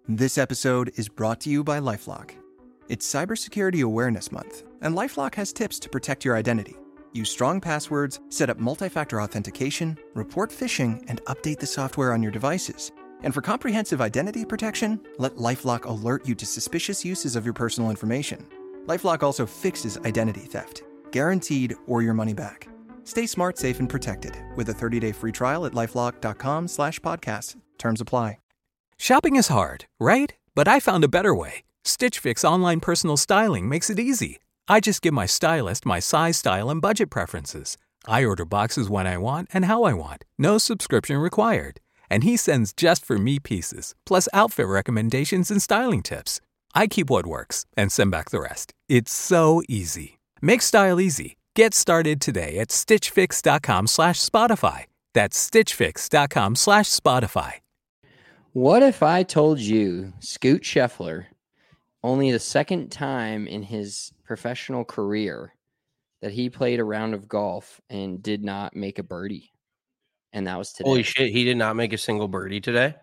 This episode is brought to you by LifeLock. It's Cybersecurity Awareness Month, and LifeLock has tips to protect your identity. Use strong passwords, set up multi-factor authentication, report phishing, and update the software on your devices. And for comprehensive identity protection, let LifeLock alert you to suspicious uses of your personal information. LifeLock also fixes identity theft, guaranteed or your money back. Stay smart, safe, and protected with a 30-day free trial at LifeLock.com/podcast. Terms apply. Shopping is hard, right? But I found a better way. Stitch Fix online personal styling makes it easy. I just give my stylist my size, style, and budget preferences. I order boxes when I want and how I want. No subscription required. And he sends just for me pieces, plus outfit recommendations and styling tips. I keep what works and send back the rest. It's so easy. Make style easy. Get started today at stitchfix.com/Spotify. That's stitchfix.com/Spotify. What if I told you Scoot Scheffler, only the second time in his professional career that he played a round of golf and did not make a birdie? And that was today. Holy shit, he did not make a single birdie today?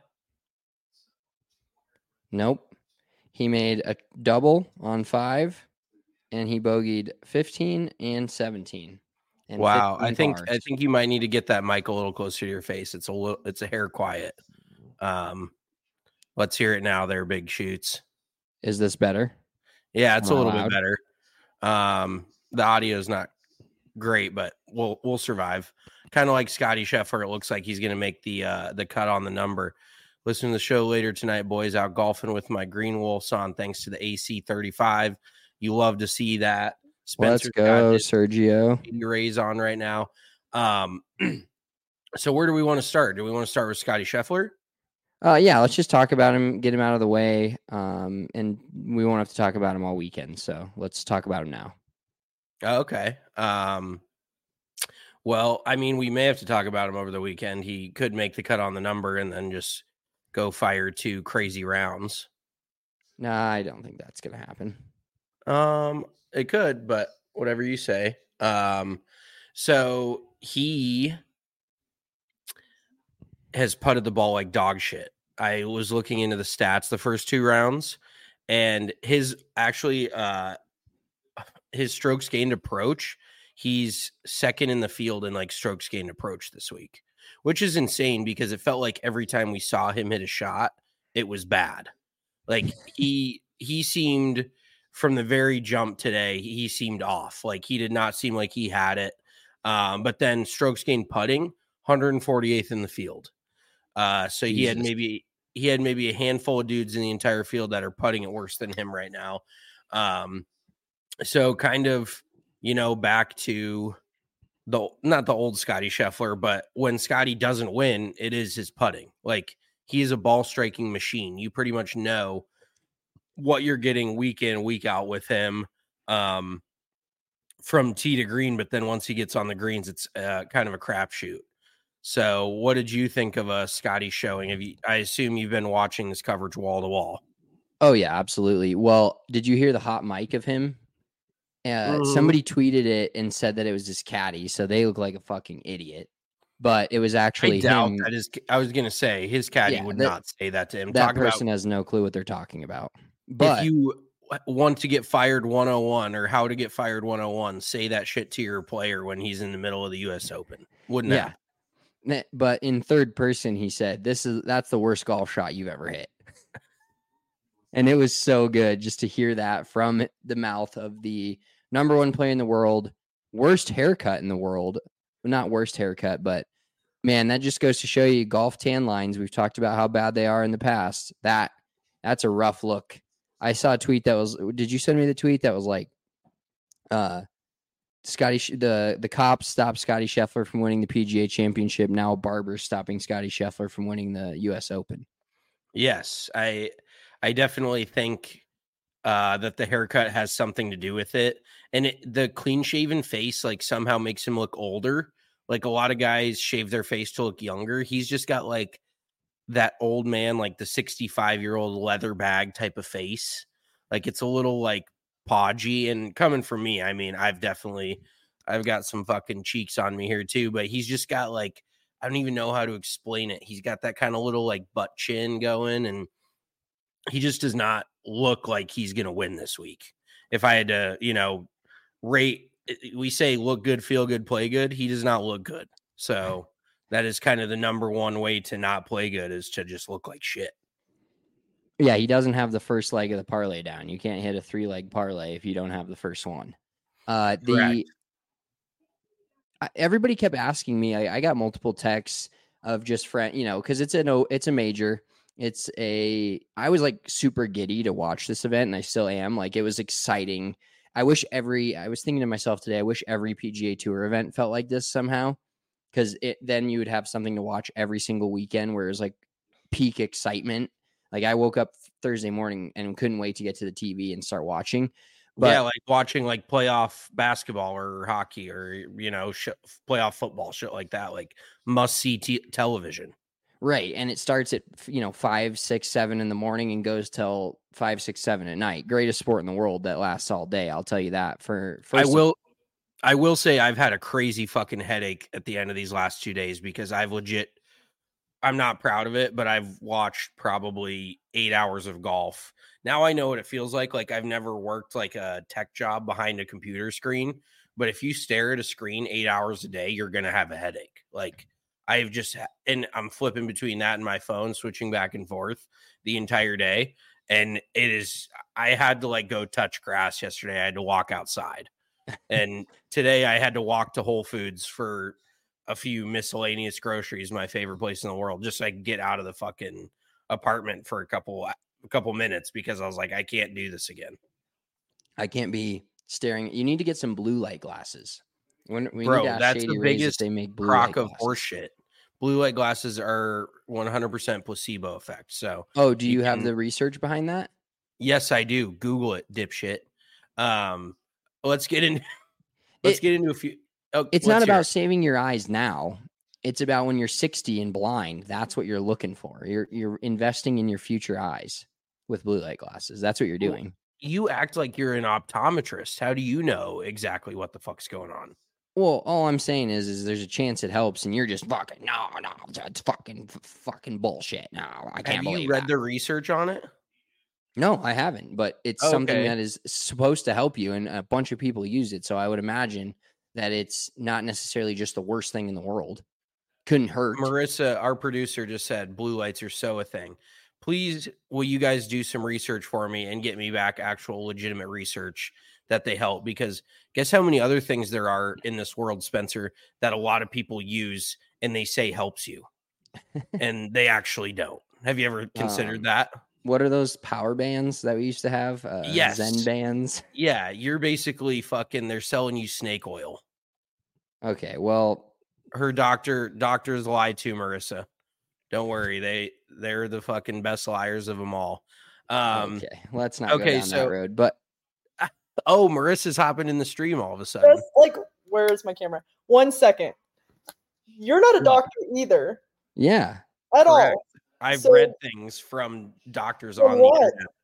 Nope. He made a double on 5, and he bogeyed 15 and 17. And wow, 15 I think you might need to get that mic a little closer to your face. It's a hair quiet. Let's hear it now. They're big shoots. Is this better? Yeah, it's a little bit better. The audio is not great, but we'll survive. Kind of like Scotty Scheffler. It looks like he's going to make the cut on the number. Listen to the show later tonight, boys. Out golfing with my Green Wolves on, thanks to the AC35. You love to see that. Let's go, Sergio. Rays on right now. So where do we want to start? Do we want to start with Scotty Scheffler? Yeah, let's just talk about him, get him out of the way, and we won't have to talk about him all weekend. So let's talk about him now. Okay. Well, I mean, we may have to talk about him over the weekend. He could make the cut on the number and then just go fire 2 crazy rounds. Nah, I don't think that's going to happen. It could, but whatever you say. So he has putted the ball like dog shit. I was looking into the stats the first 2 rounds, and his strokes gained approach, he's second in the field in like strokes gained approach this week, which is insane because it felt like every time we saw him hit a shot, it was bad. Like he seemed from the very jump today, he seemed off. Like he did not seem like he had it. But then strokes gained putting, 148th in the field. So Jesus. he had maybe a handful of dudes in the entire field that are putting it worse than him right now. So kind of, back to not the old Scotty Scheffler, but when Scotty doesn't win, it is his putting. Like he is a ball striking machine. You pretty much know what you're getting week in, week out with him, from tee to green. But then once he gets on the greens, it's kind of a crapshoot. So what did you think of Scotty showing? I assume you've been watching this coverage wall to wall. Oh yeah, absolutely. Well, did you hear the hot mic of him? Somebody tweeted it and said that it was his caddy, so they look like a fucking idiot. But it was actually him. I was going to say his caddy would not say that to him. That person has no clue what they're talking about. But if you want to get fired 101 or how to get fired 101, say that shit to your player when he's in the middle of the U.S. Open. Wouldn't that? Yeah. But in third person, he said, that's the worst golf shot you've ever hit. And it was so good just to hear that from the mouth of the number 1 player in the world, worst haircut in the world. Not worst haircut, but man, that just goes to show you golf tan lines. We've talked about how bad they are in the past. That's a rough look. I saw a tweet that was, did you send me the tweet that was like, the cops stopped Scotty Scheffler from winning the PGA Championship. Now Barber's stopping Scotty Scheffler from winning the U.S. Open. Yes, I definitely think that the haircut has something to do with it. And the clean-shaven face, like, somehow makes him look older. Like, a lot of guys shave their face to look younger. He's just got, like, that old man, like the 65-year-old leather bag type of face. Like, it's a little, like, podgy. And coming from me, I mean, I've got some fucking cheeks on me here, too. But he's just got, like, I don't even know how to explain it. He's got that kind of little, like, butt chin going. And he just does not look like he's going to win this week. If I had to, rate, we say look good, feel good, play good. He does not look good. So that is kind of the number one way to not play good, is to just look like shit. Yeah, he doesn't have the first leg of the parlay down. You can't hit a 3-leg parlay if you don't have the first one. Everybody kept asking me. I got multiple texts of just friend, because it's a major. I was like super giddy to watch this event, and I still am. Like, it was exciting. I was thinking to myself today, I wish every PGA Tour event felt like this somehow, because then you would have something to watch every single weekend where it was like peak excitement. Like, I woke up Thursday morning and couldn't wait to get to the TV and start watching. But, yeah, like watching like playoff basketball or hockey or, playoff football, shit like that, like must-see television. Right. And it starts at, 5, 6, 7 in the morning and goes till 5, 6, 7 at night. Greatest sport in the world that lasts all day. I'll tell you that. I will say I've had a crazy fucking headache at the end of these last 2 days, because I'm not proud of it, but I've watched probably 8 hours of golf. Now I know what it feels like. Like, I've never worked like a tech job behind a computer screen, but if you stare at a screen 8 hours a day, you're going to have a headache. Like, and I'm flipping between that and my phone, switching back and forth the entire day. And I had to like go touch grass yesterday. I had to walk outside. And today I had to walk to Whole Foods for a few miscellaneous groceries, my favorite place in the world, just so I could get out of the fucking apartment for a couple minutes, because I was like, I can't do this again. I can't be staring. You need to get some blue light glasses. That's the biggest they make blue crock light of horseshit. Blue light glasses are 100% placebo effect. So, do you have the research behind that? Yes, I do. Google it, dipshit. Let's get into a few. It's not about saving your eyes now. It's about when you're 60 and blind. That's what you're looking for. You're investing in your future eyes with blue light glasses. That's what you're doing. You act like you're an optometrist. How do you know exactly what the fuck's going on? Well, all I'm saying is there's a chance it helps, and you're just fucking no, it's fucking bullshit. No, I can't believe. Have you read the research on it? No, I haven't, but it's something that is supposed to help you, and a bunch of people use it. So I would imagine that it's not necessarily just the worst thing in the world. Couldn't hurt. Marissa, our producer, just said blue lights are so a thing. Please, will you guys do some research for me and get me back actual legitimate research that they help? Because guess how many other things there are in this world, Spencer, that a lot of people use and they say helps you, and they actually don't. Have you ever considered that? What are those power bands that we used to have? Yes. Zen bands. Yeah, you're basically they're selling you snake oil. Okay, well, her doctors lie to Marissa. Don't worry, they're the fucking best liars of them all. Okay, let's not go down that road. But Marissa's hopping in the stream all of a sudden. Like, where's my camera? 1 second. You're not a doctor either. Yeah. At all. I've read things from doctors on the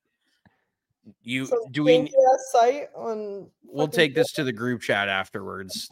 internet. Site on? We'll take this to the group chat afterwards.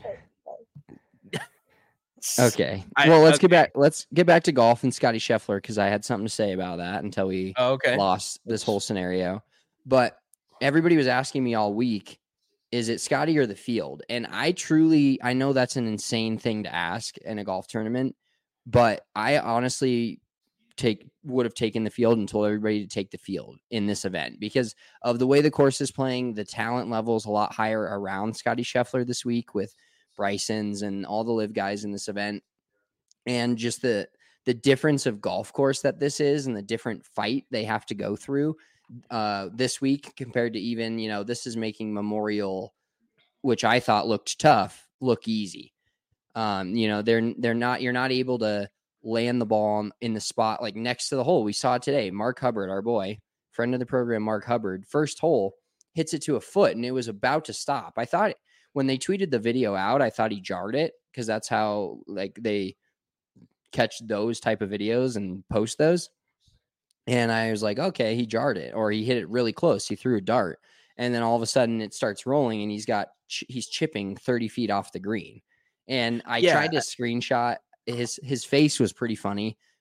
Okay. Well, let's get back. Let's get back to golf and Scotty Scheffler, because I had something to say about that until we lost this whole scenario. But everybody was asking me all week, is it Scotty or the field? And I know that's an insane thing to ask in a golf tournament, but I honestly would have taken the field and told everybody to take the field in this event, because of the way the course is playing. The talent level is a lot higher around Scotty Scheffler this week, with Bryson's and all the live guys in this event, and just the difference of golf course that this is, and the different fight they have to go through this week compared to even, this is making Memorial, which I thought looked tough, look easy. You're not able to land the ball in the spot like next to the hole. We saw today, Mark Hubbard, our boy, friend of the program, Mark Hubbard, first hole, hits it to a foot and it was about to stop. I thought when they tweeted the video out, I thought he jarred it, because that's how they catch those type of videos and post those. And I was like, okay, he jarred it, or he hit it really close. He threw a dart, and then all of a sudden it starts rolling, and he's chipping 30 feet off the green. And I tried to screenshot his face was pretty funny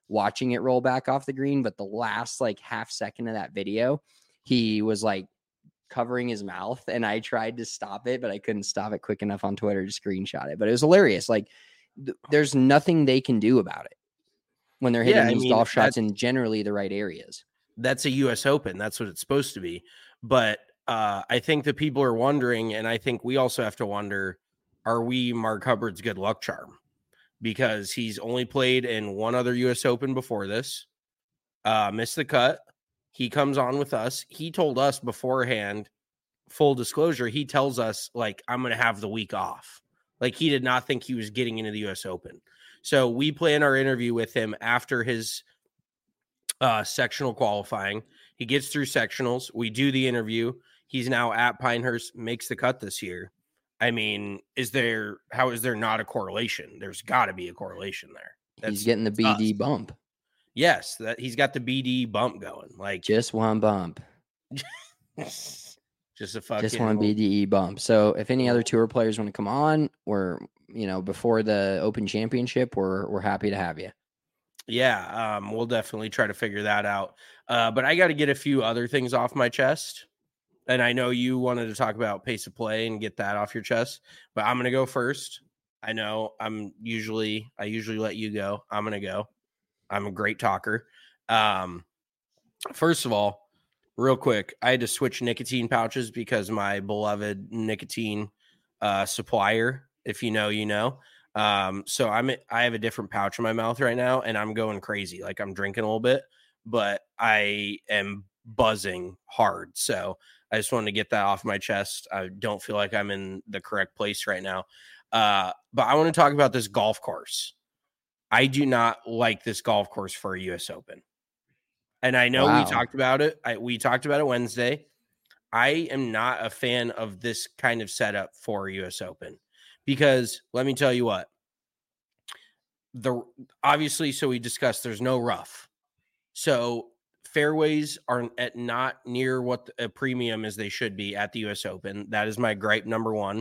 watching it roll back off the green. But the last like half second of that video, he was like covering his mouth, and I tried to stop it, but I couldn't stop it quick enough on Twitter to screenshot it. But it was hilarious. Like there's nothing they can do about it when they're hitting these golf shots in generally the right areas. That's a US Open. That's what it's supposed to be. But I think that people are wondering, and I think we also have to wonder, are we Mark Hubbard's good luck charm? Because he's only played in one other US Open before this, missed the cut. He comes on with us. He told us beforehand, full disclosure, he tells us, like, I'm going to have the week off. Like, he did not think he was getting into the US Open. So we plan our interview with him after his sectional qualifying. He gets through sectionals. We do the interview. He's now at Pinehurst, makes the cut this year. I mean, how is there not a correlation? There's got to be a correlation there. He's getting the BD bump. Yes, that he's got the BD bump going. Like just one bump. Just one BDE bump. So if any other tour players want to come on, or before the Open Championship, we're happy to have you. Yeah, we'll definitely try to figure that out. But I got to get a few other things off my chest. And I know you wanted to talk about pace of play and get that off your chest, but I'm going to go first. I know I usually let you go. I'm going to go. I'm a great talker. First of all, real quick, I had to switch nicotine pouches because my beloved nicotine supplier, if you know, you know. So I have a different pouch in my mouth right now, and I'm going crazy. Like, I'm drinking a little bit, but I am buzzing hard. So I just wanted to get that off my chest. I don't feel like I'm in the correct place right now. But I want to talk about this golf course. I do not like this golf course for a US Open. And I know we talked about it. We talked about it Wednesday. I am not a fan of this kind of setup for a US Open because let me tell you what, obviously, so we discussed there's no rough. So fairways are not near what a premium as they should be at the US Open. That is my gripe number one.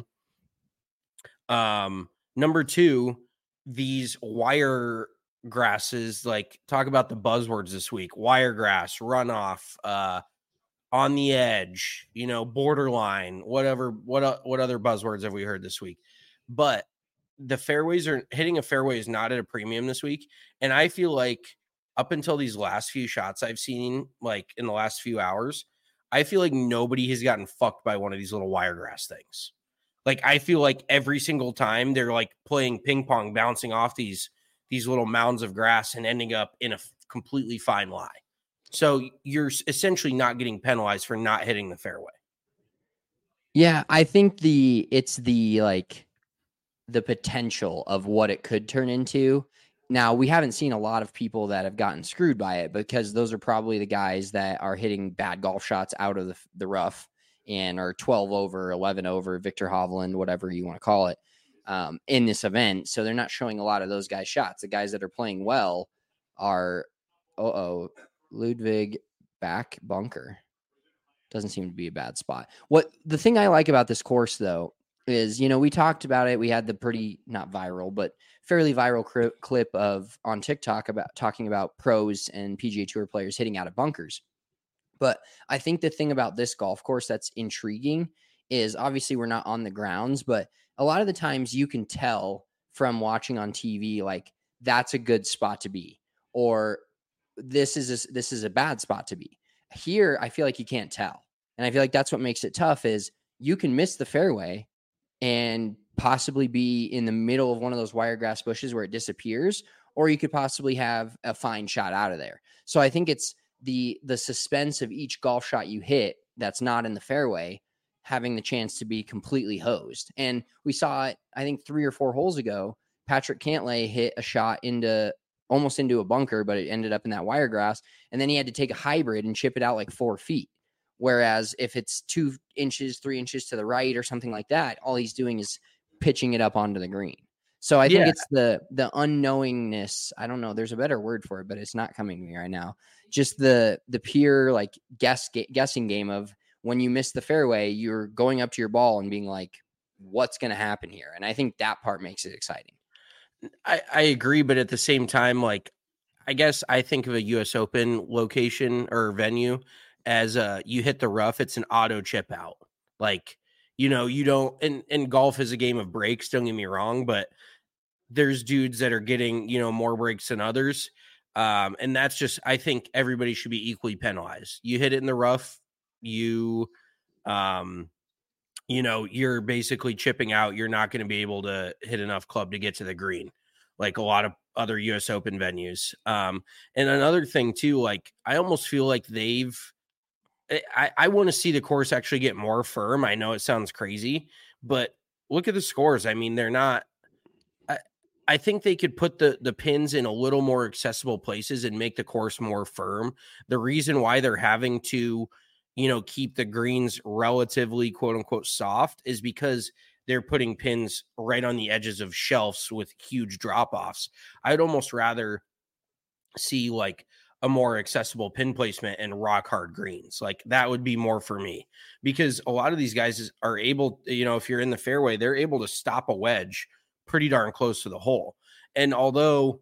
Number two, these wire grasses, like, talk about the buzzwords this week: wiregrass, runoff, on the edge, borderline, whatever. What other buzzwords have we heard this week? But the fairways hitting a fairway is not at a premium this week. And I feel like up until these last few shots I've seen, like in the last few hours, I feel like nobody has gotten fucked by one of these little wiregrass things. Like, I feel like every single time they're like playing ping pong, bouncing off these little mounds of grass and ending up in a completely fine lie. So you're essentially not getting penalized for not hitting the fairway. Yeah, I think it's the potential of what it could turn into. Now, we haven't seen a lot of people that have gotten screwed by it because those are probably the guys that are hitting bad golf shots out of the rough and are 12 over, 11 over, Victor Hovland, whatever you want to call it, in this event. So they're not showing a lot of those guys' shots. The guys that are playing well are, Ludwig back bunker. Doesn't seem to be a bad spot. The thing I like about this course, though, is, we talked about it. We had the pretty, not viral, but fairly viral clip on TikTok about talking about pros and PGA Tour players hitting out of bunkers. But I think the thing about this golf course that's intriguing is, obviously we're not on the grounds, but a lot of the times you can tell from watching on TV, like, that's a good spot to be, or this is a bad spot to be. Here, I feel like you can't tell. And I feel like that's what makes it tough, is you can miss the fairway and possibly be in the middle of one of those wiregrass bushes where it disappears, or you could possibly have a fine shot out of there. So I think it's the suspense of each golf shot you hit that's not in the fairway having the chance to be completely hosed. And we saw it, I think 3 or 4 holes ago. Patrick Cantlay hit a shot almost into a bunker, but it ended up in that wiregrass. And then he had to take a hybrid and chip it out like 4 feet. Whereas if it's 2 inches, 3 inches to the right or something like that, all he's doing is pitching it up onto the green. So I think it's the unknowingness. I don't know. There's a better word for it, but it's not coming to me right now. Just the pure like guessing game of, when you miss the fairway, you're going up to your ball and being like, what's going to happen here? And I think that part makes it exciting. I agree. But at the same time, like, I guess I think of a US Open location or venue as you hit the rough, it's an auto chip out. Like, you know, you don't, and golf is a game of breaks, don't get me wrong, but there's dudes that are getting, you know, more breaks than others. And that's just, I think everybody should be equally penalized. You hit it in the rough, you know, you're basically chipping out. You're not going to be able to hit enough club to get to the green, like a lot of other US Open venues. And another thing too, like I almost feel like I want to see the course actually get more firm. I know it sounds crazy, but look at the scores. I mean, they're not, I think they could put the pins in a little more accessible places and make the course more firm. The reason why they're having to, you know, keep the greens relatively quote unquote soft is because they're putting pins right on the edges of shelves with huge drop offs. I'd almost rather see like a more accessible pin placement and rock hard greens. Like that would be more for me, because a lot of these guys are able, you know, if you're in the fairway, they're able to stop a wedge pretty darn close to the hole. And although,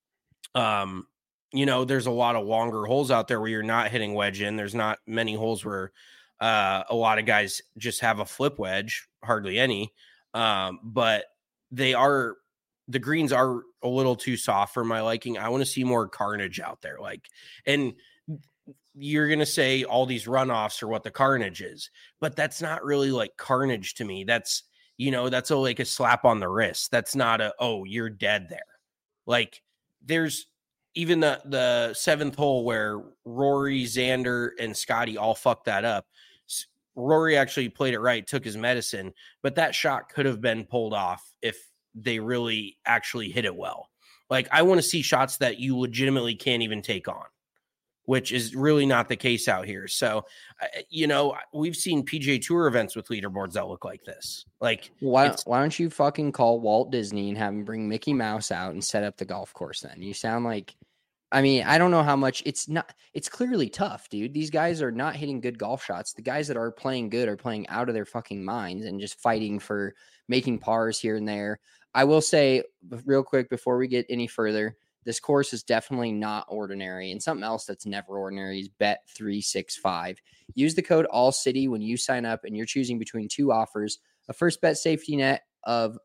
you know, there's a lot of longer holes out there where you're not hitting wedge in, there's not many holes where a lot of guys just have a flip wedge, hardly any. But the greens are a little too soft for my liking. I want to see more carnage out there. Like, and you're going to say all these runoffs are what the carnage is, but that's not really like carnage to me. That's, you know, that's like a slap on the wrist. That's not oh, you're dead there. Like there's even the seventh hole where Rory, Xander, and Scotty all fucked that up. Rory actually played it right, took his medicine, but that shot could have been pulled off if they really actually hit it well. Like I want to see shots that you legitimately can't even take on, which is really not the case out here. So, you know, we've seen PGA Tour events with leaderboards that look like this. Like, why don't you fucking call Walt Disney and have him bring Mickey Mouse out and set up the golf course then? You sound like, I mean, I don't know how much it's clearly tough, dude. These guys are not hitting good golf shots. The guys that are playing good are playing out of their fucking minds and just fighting for making pars here and there. I will say real quick before we get any further, this course is definitely not ordinary. And something else that's never ordinary is Bet365. Use the code ALLCITY when you sign up and you're choosing between two offers, a first bet safety net of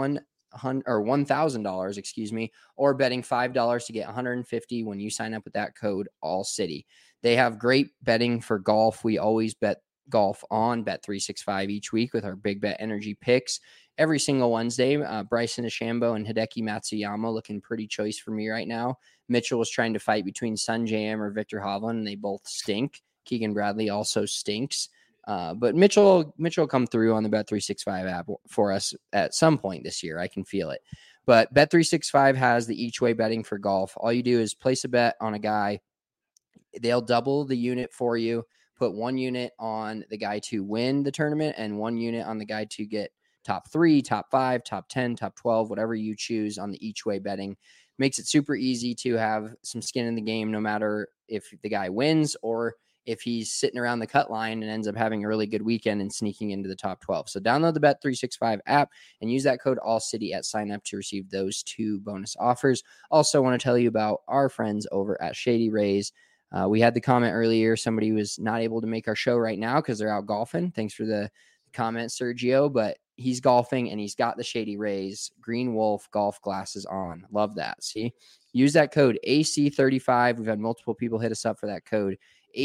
$1,000, excuse me, or betting $5 to get $150 when you sign up with that code ALLCITY. They have great betting for golf. We always bet golf on Bet365 each week with our Big Bet Energy picks. Every single Wednesday, Bryson DeChambeau and Hideki Matsuyama looking pretty choice for me right now. Mitchell was trying to fight between Sungjae or Victor Hovland, and they both stink. Keegan Bradley also stinks. But Mitchell will come through on the Bet365 app for us at some point this year. I can feel it. But Bet365 has the each way betting for golf. All you do is place a bet on a guy. They'll double the unit for you. Put 1 unit on the guy to win the tournament and 1 unit on the guy to get top 3, top 5, top 10, top 12, whatever you choose on the each way betting. Makes it super easy to have some skin in the game, no matter if the guy wins or if he's sitting around the cut line and ends up having a really good weekend and sneaking into the top 12. So download the Bet365 app and use that code ALLCITY at sign up to receive those 2 bonus offers. Also want to tell you about our friends over at Shady Rays. We had the comment earlier. Somebody was not able to make our show right now because they're out golfing. Thanks for the comment, Sergio, but he's golfing and he's got the Shady Rays Green Wolf golf glasses on. Love that. See, use that code AC35. We've had multiple people hit us up for that code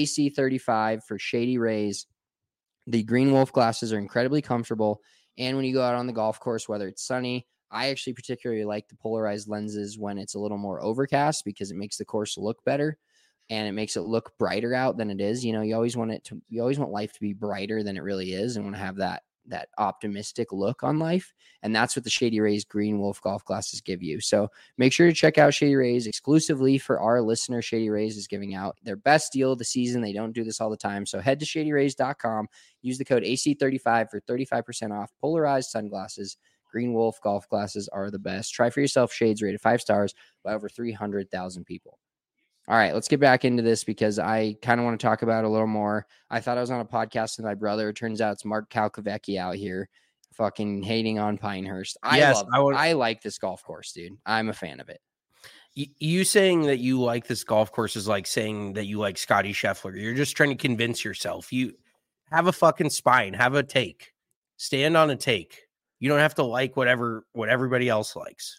AC35 for Shady Rays. The Green Wolf glasses are incredibly comfortable. And when you go out on the golf course, whether it's sunny, I actually particularly like the polarized lenses when it's a little more overcast because it makes the course look better. And it makes it look brighter out than it is. You know, you always want life to be brighter than it really is and want to have that optimistic look on life. And that's what the Shady Rays Green Wolf golf glasses give you. So make sure to check out Shady Rays exclusively for our listener. Shady Rays is giving out their best deal of the season. They don't do this all the time. So head to shadyrays.com, use the code AC35 for 35% off polarized sunglasses. Green Wolf golf glasses are the best. Try for yourself shades rated 5 stars by over 300,000 people. All right, let's get back into this because I kind of want to talk about it a little more. I thought I was on a podcast with my brother. It turns out it's Mark Calcavecchi out here fucking hating on Pinehurst. I like this golf course, dude. I'm a fan of it. You saying that you like this golf course is like saying that you like Scotty Scheffler. You're just trying to convince yourself. You have a fucking spine, have a take, stand on a take. You don't have to like what everybody else likes.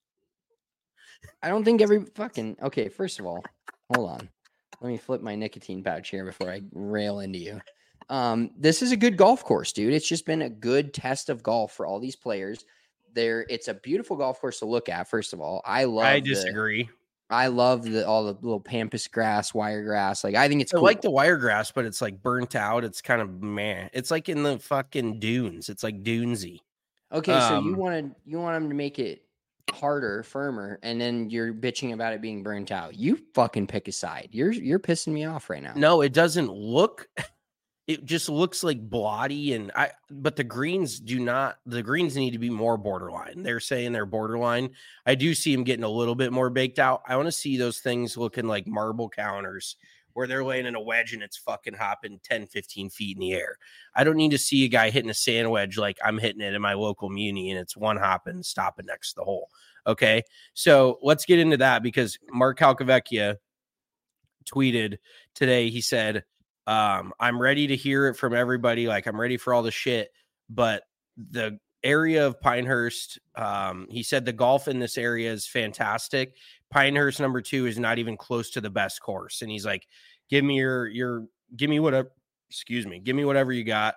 I don't think okay, first of all, hold on. Let me flip my nicotine pouch here before I rail into you. This is a good golf course, dude. It's just been a good test of golf for all these players. It's a beautiful golf course to look at. First of all, I disagree. I love all the little pampas grass, wire grass. Like, I think it's cool. I like the wire grass, but it's like burnt out. It's kind of meh. It's like in the fucking dunes. It's like dunesy. Okay, so you want them to make it harder, firmer, and then you're bitching about it being burnt out. You fucking pick a side. You're pissing me off right now. No, it doesn't look. It just looks like blotty, but the greens the greens need to be more borderline. They're saying they're borderline. I do see them getting a little bit more baked out. I want to see those things looking like marble counters where they're laying in a wedge and it's fucking hopping 10, 15 feet in the air. I don't need to see a guy hitting a sand wedge like I'm hitting it in my local muni and it's one hopping, stopping next to the hole. Okay. So let's get into that because Mark Calcavecchia tweeted today. He said, I'm ready to hear it from everybody. Like, I'm ready for all the shit, but the area of Pinehurst, he said the golf in this area is fantastic. Pinehurst number 2 is not even close to the best course. And he's like, give me whatever you got.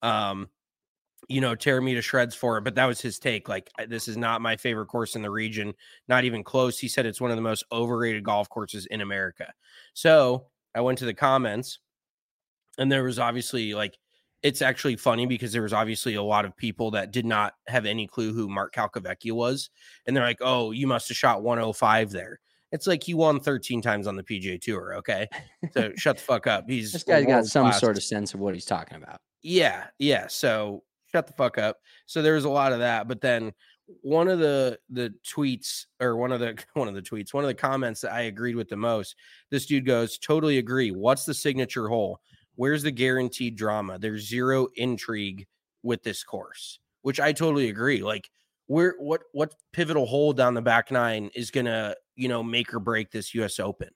Tear me to shreds for it. But that was his take. Like, this is not my favorite course in the region, not even close. He said it's one of the most overrated golf courses in America. So I went to the comments. And there was obviously it's actually funny because there was obviously a lot of people that did not have any clue who Mark Calcavecchia was. And they're like, oh, you must have shot 105 there. It's like he won 13 times on the PGA Tour. Okay. So shut the fuck up. This guy's got some sort of sense of what he's talking about. Yeah. Yeah. So shut the fuck up. So there was a lot of that. But then one of the tweets or one of the comments that I agreed with the most, this dude goes, totally agree. What's the signature hole? Where's the guaranteed drama? There's zero intrigue with this course, which I totally agree. Like, what pivotal hole down the back nine is gonna, make or break this US Open?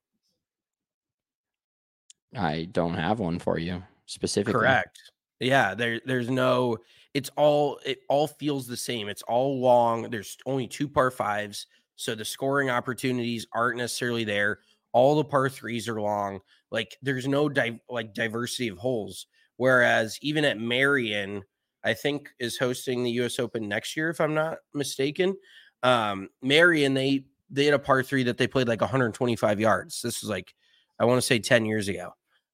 I don't have one for you specifically. Correct. Yeah, there's no, it all feels the same. It's all long. There's only 2 par 5s, so the scoring opportunities aren't necessarily there. All the par 3s are long. Like, there's no diversity of holes. Whereas even at Marion, I think is hosting the US Open next year, if I'm not mistaken. Marion, they had a par 3 that they played like 125 yards. This was like, I want to say 10 years ago.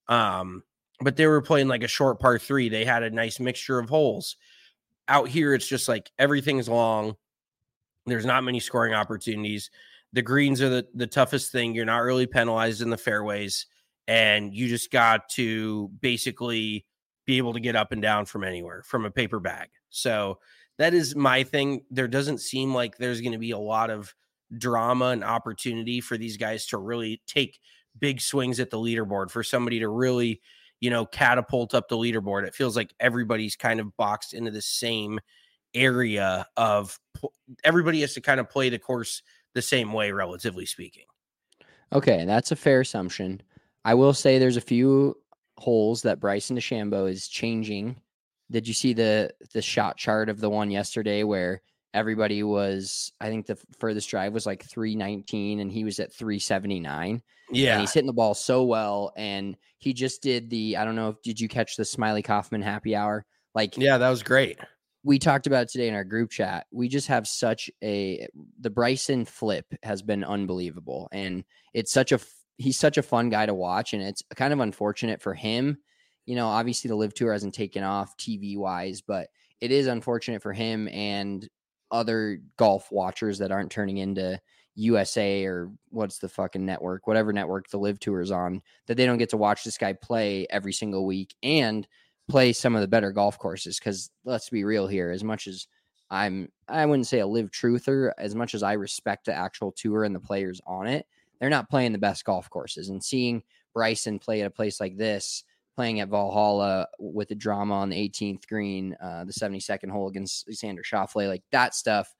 But they were playing like a short par 3. They had a nice mixture of holes. Out here, it's just like everything's long. There's not many scoring opportunities. The greens are the toughest thing. You're not really penalized in the fairways, and you just got to basically be able to get up and down from anywhere, from a paper bag. So that is my thing. There doesn't seem like there's going to be a lot of drama and opportunity for these guys to really take big swings at the leaderboard, for somebody to really, catapult up the leaderboard. It feels like everybody's kind of boxed into the same area of everybody has to kind of play the course the same way, relatively speaking. Okay, that's a fair assumption. I will say there's a few holes that Bryson DeChambeau is changing. Did you see the shot chart of the one yesterday where everybody was, I think the furthest drive was like 319 and he was at 379? Yeah. And he's hitting the ball so well. And he just did I don't know, did you catch the Smiley Kaufman happy hour? Yeah, that was great. We talked about it today in our group chat. We just have the Bryson flip has been unbelievable. And he's such a fun guy to watch. And it's kind of unfortunate for him. Obviously the Live Tour hasn't taken off TV wise, but it is unfortunate for him and other golf watchers that aren't turning into USA or what's the fucking network, whatever network the Live Tour is on, that they don't get to watch this guy play every single week and play some of the better golf courses. Because let's be real here, as much as I wouldn't say a Live truther, as much as I respect the actual tour and the players on it, they're not playing the best golf courses. And seeing Bryson play at a place like this, playing at Valhalla with the drama on the 18th green, the 72nd hole against Xander Schauffele, like that stuff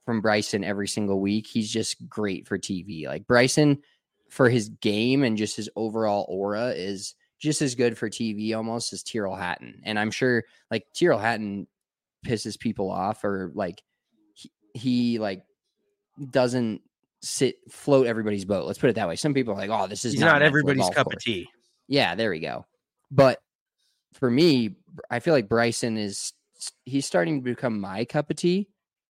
from Bryson every single week. He's just great for TV. Like Bryson, for his game and just his overall aura, is just as good for TV almost as Tyrrell Hatton. And I'm sure like Tyrrell Hatton pisses people off, or like he like doesn't float everybody's boat. Let's put it that way. Some people are like, oh, this is He's not not everybody's cup course. of tea. Yeah, there we go. But for me, I feel like Bryson he's starting to become my cup of tea.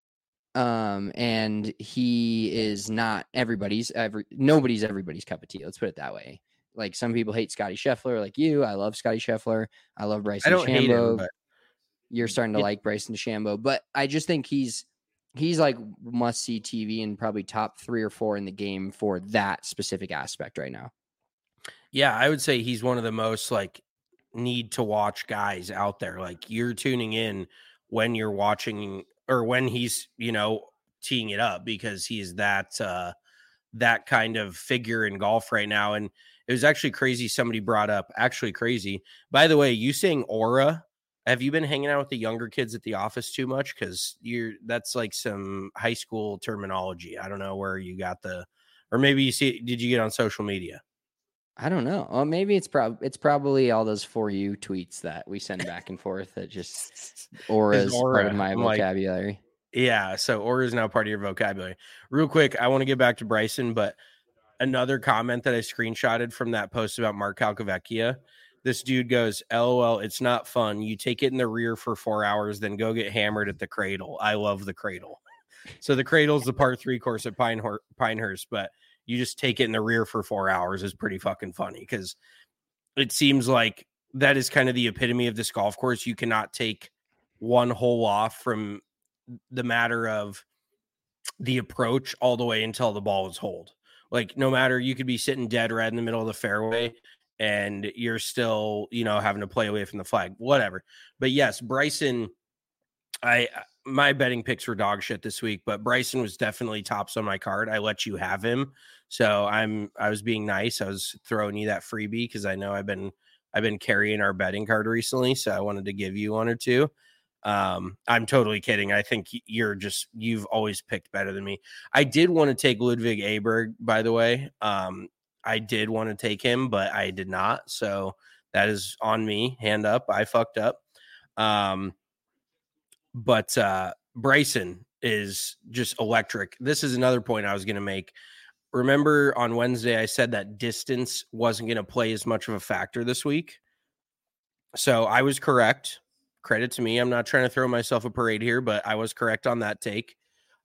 And he is not nobody's everybody's cup of tea. Let's put it that way. Like some people hate Scotty Scheffler, like you. I love Scotty Scheffler. I love Bryson I don't hate him, DeChambeau. but You're starting to like Bryson DeChambeau, but I just think he's like must see TV and probably top 3 or 4 in the game for that specific aspect right now. yeah, I would say he's one of the most like need to watch guys out there. Like you're tuning in when you're watching or when he's, teeing it up, because he's that kind of figure in golf right now. And it was actually crazy. Somebody brought up crazy. By the way, you saying aura, have you been hanging out with the younger kids at the office too much? Cause that's like some high school terminology. I don't know where you got or maybe did you get on social media? I don't know. Well, maybe it's probably all those For You tweets that we send back and forth that just aura is part of my vocabulary. Yeah, so aura is now part of your vocabulary. Real quick, I want to get back to Bryson, but another comment that I screenshotted from that post about Mark Calcavecchia, this dude goes, LOL, it's not fun. You take it in the rear for 4 hours, then go get hammered at the Cradle. I love the Cradle. So the Cradle is the par 3 course at Pinehurst, but you just take it in the rear for 4 hours is pretty fucking funny, because it seems like that is kind of the epitome of this golf course. You cannot take one hole off from the matter of the approach all the way until the ball is holed. Like no matter, you could be sitting dead right in the middle of the fairway and you're still, having to play away from the flag, whatever. But yes, Bryson, my betting picks were dog shit this week, but Bryson was definitely tops on my card. I let you have him. So I was being nice. I was throwing you that freebie because I know I've been carrying our betting card recently. So I wanted to give you one or two. I'm totally kidding. I think you've always picked better than me. I did want to take Ludwig Aberg, by the way. I did want to take him, but I did not. So that is on me. Hand up. I fucked up. But Bryson is just electric. This is another point I was going to make. Remember on Wednesday, I said that distance wasn't going to play as much of a factor this week. So I was correct. Credit to me. I'm not trying to throw myself a parade here, but I was correct on that take.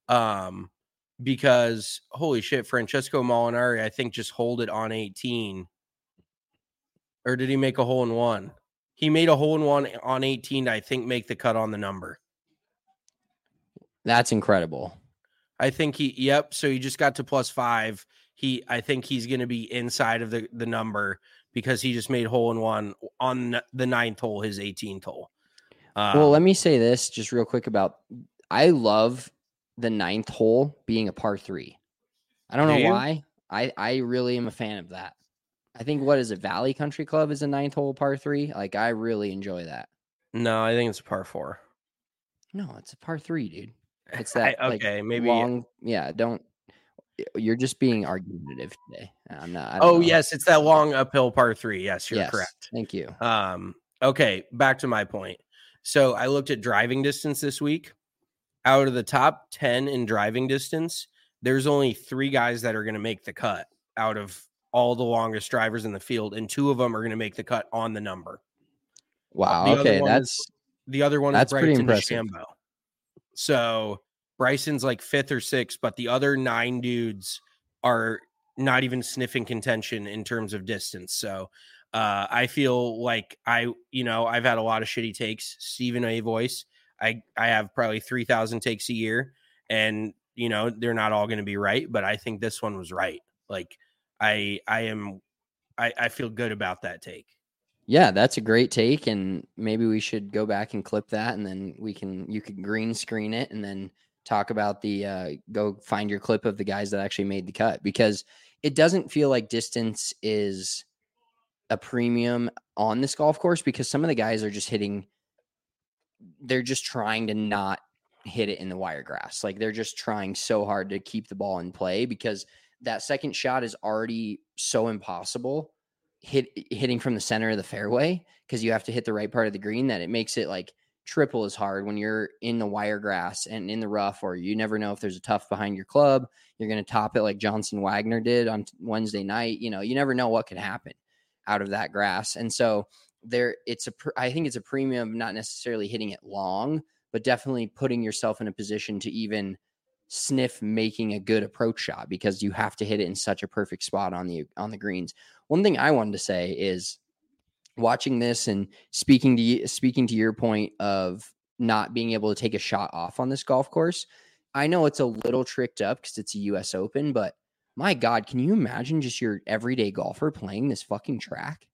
Because holy shit, Francesco Molinari, I think just holed it on 18. Or did he make a hole in one? He made a hole in one on 18 to, I think, make the cut on the number. That's incredible. I think so he just got to +5. I think he's going to be inside of the number because he just made hole in one on the 9th hole, his 18th hole. Well, let me say this just real quick I love the 9th hole being a par 3. I don't know why. I really am a fan of that. I think Valley Country Club is a 9th hole par 3. Like I really enjoy that. No, I think it's a par 4. No, it's a par 3, dude. It's that okay, maybe long. Yeah, you're just being argumentative today. I'm not. I don't know. Yes, it's that long uphill par 3. Yes, you're correct. Thank you. Okay, back to my point. So I looked at driving distance this week. Out of the top 10 in driving distance, there's only 3 guys that are going to make the cut out of all the longest drivers in the field, and 2 of them are going to make the cut on the number. Wow. The okay, other one that's is pretty Bryson impressive. DeChambeau. So Bryson's like 5th or 6th, but the other 9 dudes are not even sniffing contention in terms of distance. So I feel like I've had a lot of shitty takes. Stephen A. Voice, I have probably 3,000 takes a year, and they're not all going to be right, but I think this one was right. Like I feel good about that take. Yeah, that's a great take, and maybe we should go back and clip that, and then you could green screen it, and then talk about go find your clip of the guys that actually made the cut, because it doesn't feel like distance is a premium on this golf course, because some of the guys are just they're just trying to not hit it in the wire grass. Like they're just trying so hard to keep the ball in play because that second shot is already so impossible hitting from the center of the fairway because you have to hit the right part of the green that it makes it like triple as hard when you're in the wire grass and in the rough, or you never know if there's a tough behind your club. You're going to top it like Johnson Wagner did on Wednesday night. You know, you never know what could happen out of that grass. And so I think it's a premium of not necessarily hitting it long, but definitely putting yourself in a position to even sniff making a good approach shot because you have to hit it in such a perfect spot on the greens. One thing I wanted to say is watching this and speaking to your point of not being able to take a shot off on this golf course. I know it's a little tricked up because it's a US Open, but my God, can you imagine just your everyday golfer playing this fucking track?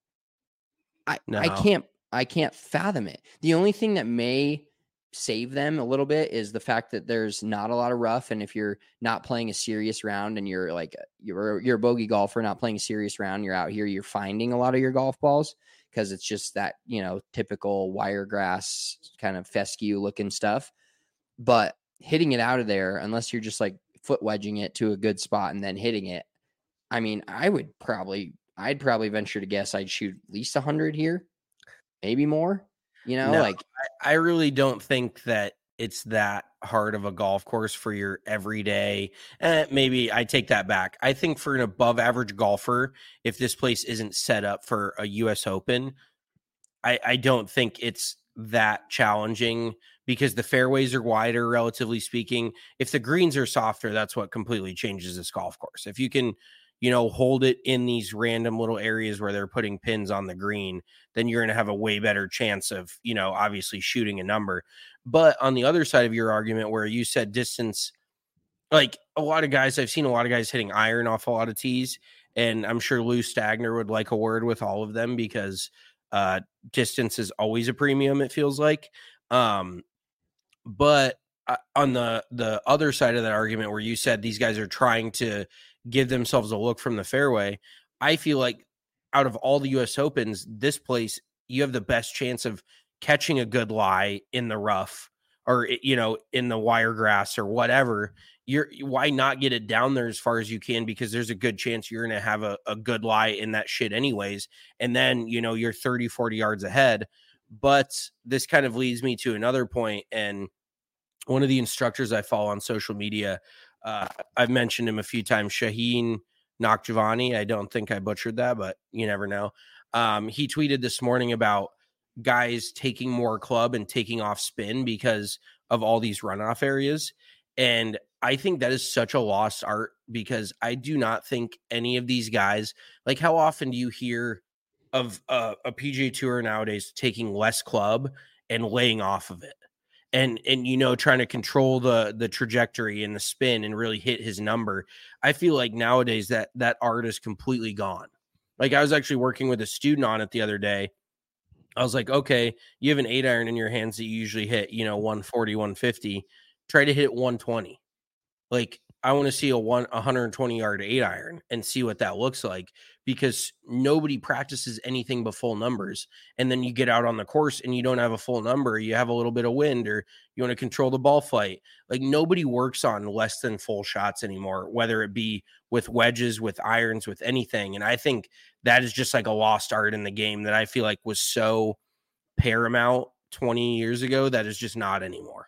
I can't fathom it. The only thing that may save them a little bit is the fact that there's not a lot of rough, and if you're not playing a serious round and you're a bogey golfer not playing a serious round, you're out here, you're finding a lot of your golf balls because it's just that, you know, typical wire grass kind of fescue looking stuff. But hitting it out of there, unless you're just like foot wedging it to a good spot and then hitting it, I mean, I'd probably venture to guess I'd shoot at least 100 here, maybe more. You know, no, I really don't think that it's that hard of a golf course for your everyday. Maybe I take that back. I think for an above average golfer, if this place isn't set up for a US Open, I don't think it's that challenging because the fairways are wider, relatively speaking. If the greens are softer, that's what completely changes this golf course. If you can, you know, hold it in these random little areas where they're putting pins on the green, then you're going to have a way better chance of, you know, obviously shooting a number. But on the other side of your argument where you said distance, like I've seen a lot of guys hitting iron off a lot of tees, and I'm sure Lou Stagner would like a word with all of them because distance is always a premium, it feels like. But on the other side of that argument where you said these guys are trying to give themselves a look from the fairway, I feel like out of all the US Opens, this place, you have the best chance of catching a good lie in the rough or, you know, in the wire grass or whatever. Why not get it down there as far as you can? Because there's a good chance you're going to have a good lie in that shit anyways. And then, you know, you're 30, 40 yards ahead. But this kind of leads me to another point. And one of the instructors I follow on social media, I've mentioned him a few times, Shaheen Nakjavani. I don't think I butchered that, but you never know. He tweeted this morning about guys taking more club and taking off spin because of all these runoff areas. And I think that is such a lost art because I do not think any of these guys, like how often do you hear of a PGA Tour nowadays taking less club and laying off of it? And you know, trying to control the trajectory and the spin and really hit his number. I feel like nowadays that art is completely gone. Like I was actually working with a student on it the other day. I was like, okay, you have an 8-iron in your hands that you usually hit, you know, 140, 150. Try to hit 120. Like I want to see a 120 yard 8-iron and see what that looks like because nobody practices anything but full numbers. And then you get out on the course and you don't have a full number. You have a little bit of wind or you want to control the ball flight. Like nobody works on less than full shots anymore, whether it be with wedges, with irons, with anything. And I think that is just like a lost art in the game that I feel like was so paramount 20 years ago that is just not anymore.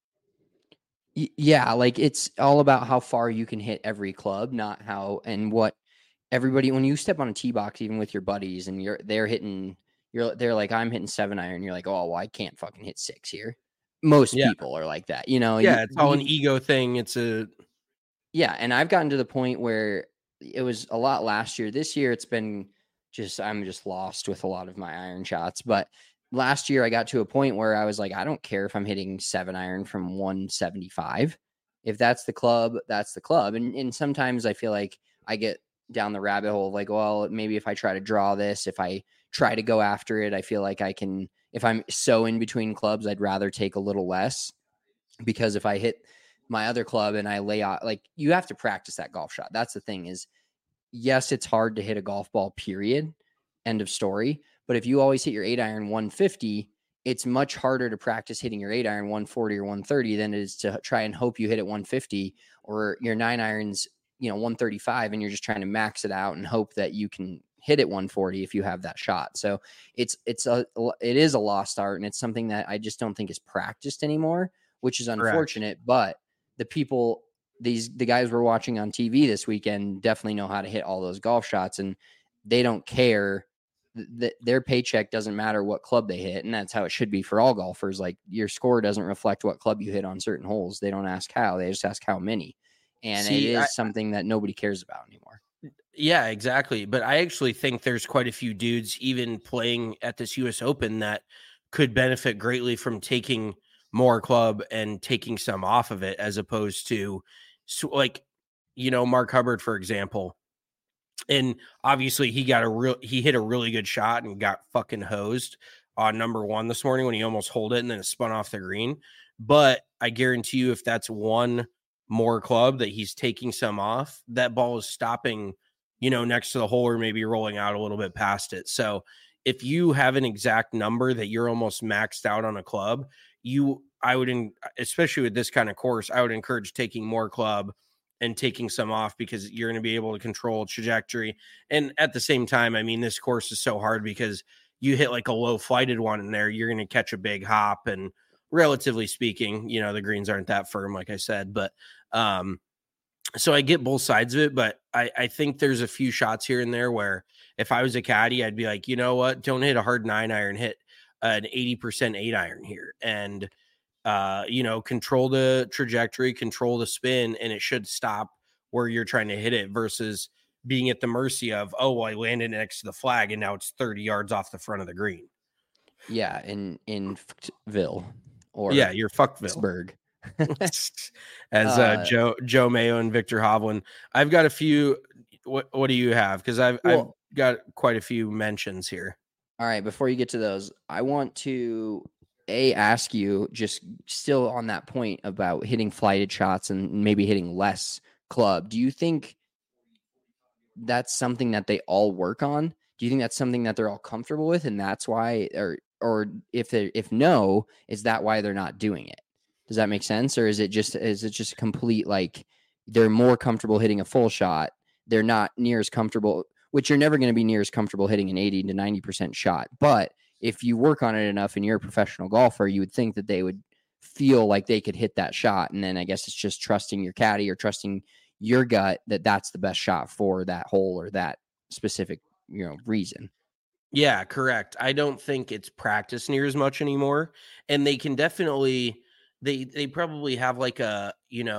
Yeah, like it's all about how far you can hit every club, not how and what everybody. When you step on a tee box, even with your buddies, and they're like, I'm hitting 7-iron. You're like, oh, well, I can't fucking hit 6 here. Most people are like that, you know. Yeah, it's all an ego thing. Yeah, and I've gotten to the point where it was a lot last year. This year, it's been I'm just lost with a lot of my iron shots, but. Last year, I got to a point where I was like, I don't care if I'm hitting 7-iron from 175. If that's the club, that's the club. And sometimes I feel like I get down the rabbit hole of like, well, maybe if I try to draw this, if I try to go after it, I feel like I can, if I'm so in between clubs, I'd rather take a little less because if I hit my other club and I lay out, like you have to practice that golf shot. That's the thing is, yes, it's hard to hit a golf ball, period. End of story. But if you always hit your 8-iron 150, it's much harder to practice hitting your 8-iron 140 or 130 than it is to try and hope you hit it 150, or your 9-irons, 135, and you're just trying to max it out and hope that you can hit it 140 if you have that shot. So it is a lost art, and it's something that I just don't think is practiced anymore, which is unfortunate. Correct. But the guys we're watching on TV this weekend definitely know how to hit all those golf shots, and they don't care. Their paycheck doesn't matter what club they hit, and that's how it should be for all golfers. Like, your score doesn't reflect what club you hit on certain holes. They don't ask how, they just ask how many. And it is something that nobody cares about anymore. Yeah, exactly. But I actually think there's quite a few dudes even playing at this US Open that could benefit greatly from taking more club and taking some off of it, as opposed to Mark Hubbard, for example. And obviously he hit a really good shot and got fucking hosed on number 1 this morning when he almost holed it and then it spun off the green. But I guarantee you, if that's one more club that he's taking some off, that ball is stopping, next to the hole, or maybe rolling out a little bit past it. So if you have an exact number that you're almost maxed out on a club, especially with this kind of course, I would encourage taking more club and taking some off, because you're going to be able to control trajectory. And at the same time, I mean, this course is so hard because you hit like a low flighted one in there, you're going to catch a big hop. And relatively speaking, the greens aren't that firm, like I said, but so I get both sides of it, but I think there's a few shots here and there where if I was a caddy, I'd be like, you know what, don't hit a hard 9-iron, hit an 80% 8-iron here. And control the trajectory, control the spin, and it should stop where you're trying to hit it, versus being at the mercy of, I landed next to the flag and now it's 30 yards off the front of the green. Yeah, in Ville, or you're Fuckville. Pittsburgh. As Joe Mayo and Victor Hovland. I've got a few. What do you have? Because I've got quite a few mentions here. All right, before you get to those, I want to ask you, just still on that point about hitting flighted shots and maybe hitting less club. Do you think that's something that they all work on? Do you think that's something that they're all comfortable with, and that's why, or if no, is that why they're not doing it? Does that make sense? Or is it just complete, like, they're more comfortable hitting a full shot, they're not near as comfortable, which you're never going to be near as comfortable hitting an 80 to 90% shot. But if you work on it enough and you're a professional golfer, you would think that they would feel like they could hit that shot. And then I guess it's just trusting your caddy or trusting your gut that that's the best shot for that hole or that specific, reason. Yeah, correct. I don't think it's practiced near as much anymore. And they can definitely, they probably have like a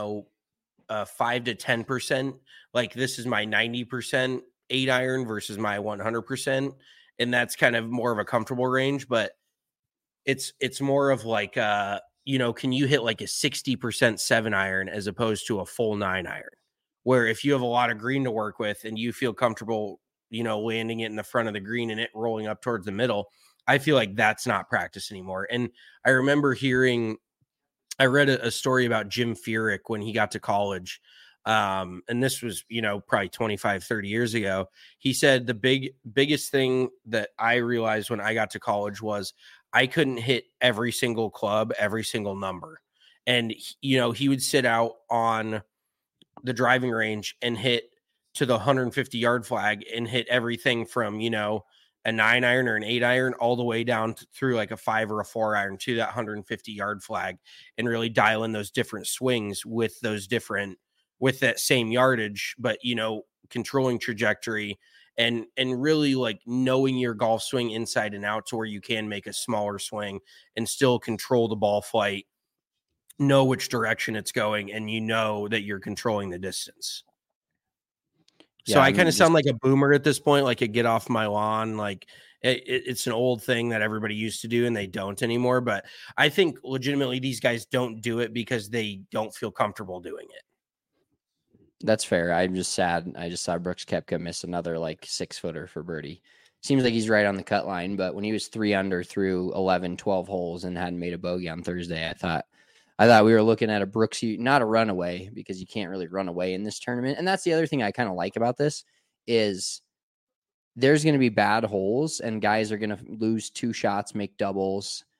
5 to 10%. Like, this is my 90% 8-iron versus my 100%. And that's kind of more of a comfortable range, but it's more of like, can you hit like a 60% 7-iron as opposed to a full 9-iron, where if you have a lot of green to work with and you feel comfortable, landing it in the front of the green and it rolling up towards the middle, I feel like that's not practice anymore. And I remember I read a story about Jim Furyk when he got to college. And this was, probably 25, 30 years ago. He said the biggest thing that I realized when I got to college was I couldn't hit every single club, every single number. And, he would sit out on the driving range and hit to the 150 yard flag and hit everything from, a 9-iron or an 8-iron all the way down through like a 5 or a 4-iron to that 150 yard flag, and really dial in those different swings with that same yardage, but controlling trajectory and really like knowing your golf swing inside and out to where you can make a smaller swing and still control the ball flight, know which direction it's going, and that you're controlling the distance. So I kind of sound like a boomer at this point, like a get off my lawn. Like it's an old thing that everybody used to do and they don't anymore. But I think legitimately these guys don't do it because they don't feel comfortable doing it. That's fair. I'm just sad. I just saw Brooks Koepka miss another like 6-footer for birdie. Seems like he's right on the cut line, but when he was 3 under through 11, 12 holes and hadn't made a bogey on Thursday, I thought we were looking at a Brooks, not a runaway, because you can't really run away in this tournament. And that's the other thing I kind of like about this is there's going to be bad holes and guys are going to lose 2 shots, make doubles,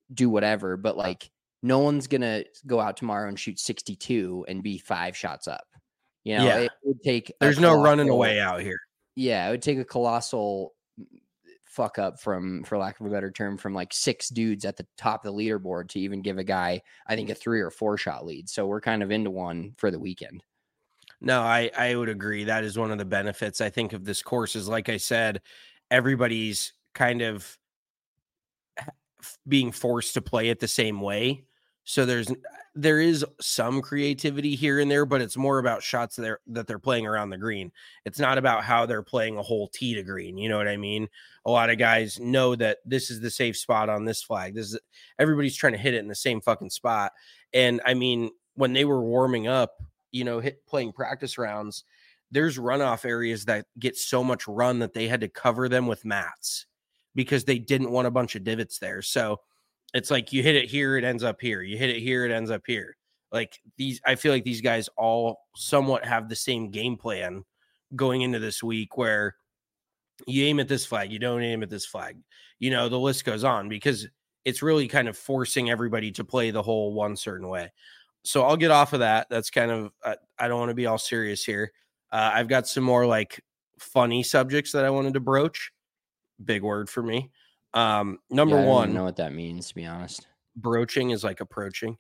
do whatever, but like no one's gonna go out tomorrow and shoot 62 and be 5 shots up. You know, Yeah. it would take There's no running away out here. Yeah, it would take a colossal fuck up from, for lack of a better term, from like 6 dudes at the top of the leaderboard to even give a guy, I think, a 3 or 4 shot lead. So we're kind of into one for the weekend. No, I would agree. That is one of the benefits, I think, of this course is, like I said, everybody's kind of being forced to play it the same way. So there is some creativity here and there, but it's more about shots that they're playing around the green. It's not about how they're playing a whole tee to green. You know what I mean? A lot of guys know that this is the safe spot on this flag. Everybody's trying to hit it in the same fucking spot. And I mean, when they were warming up, you know, playing practice rounds, there's runoff areas that get so much run that they had to cover them with mats because they didn't want a bunch of divots there. So it's like you hit it here, it ends up here. You hit it here, it ends up here. Like I feel like these guys all somewhat have the same game plan going into this week where you aim at this flag, you don't aim at this flag. You know, the list goes on because it's really kind of forcing everybody to play the whole one certain way. So I'll get off of that. That's kind of, I don't want to be all serious here. I've got some more like funny subjects that I wanted to broach. Big word for me. Number I don't one, even know what that means, to be honest. broaching is like approaching.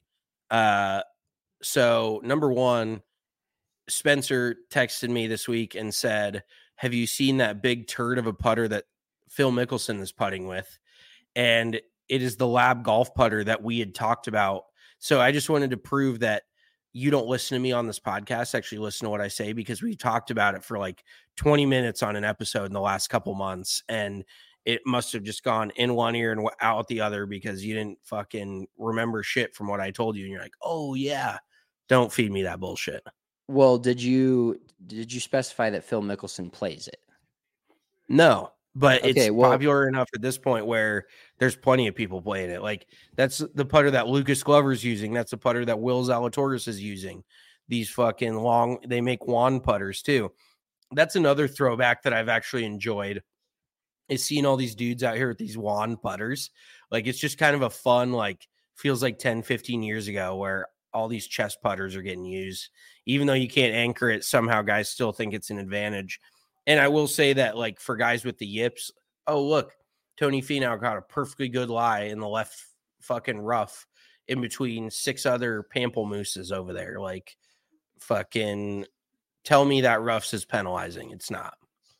So number one, Spencer texted me this week and said, have you seen that big turd of a putter that Phil Mickelson is putting with? And it is the Lab golf putter that we had talked about. So I just wanted to prove that you don't listen to me on this podcast, actually listen to what I say, because we talked about it for like 20 minutes on an episode in the last couple months. And it must have just gone in one ear and out the other because you didn't fucking remember shit from what I told you. And you're like, oh yeah, don't feed me that bullshit. Well, did you specify that Phil Mickelson plays it? No, but Okay, it's well- popular enough at this point where there's plenty of people playing it. Like that's the putter that Lucas Glover's using. That's the putter that Will Zalatoris is using. These fucking long, they make wand putters too. That's another throwback that I've actually enjoyed is seeing all these dudes out here with these wand putters. Like it's just kind of a fun, like feels like 10, 15 years ago where all these chest putters are getting used. Even though you can't anchor it, somehow guys still think it's an advantage. And I will say that, like, for guys with the yips, oh, look, Tony Finau got a perfectly good lie in the left fucking rough in between 6 other pamplemooses over there. Like, fucking tell me that roughs is penalizing. It's not.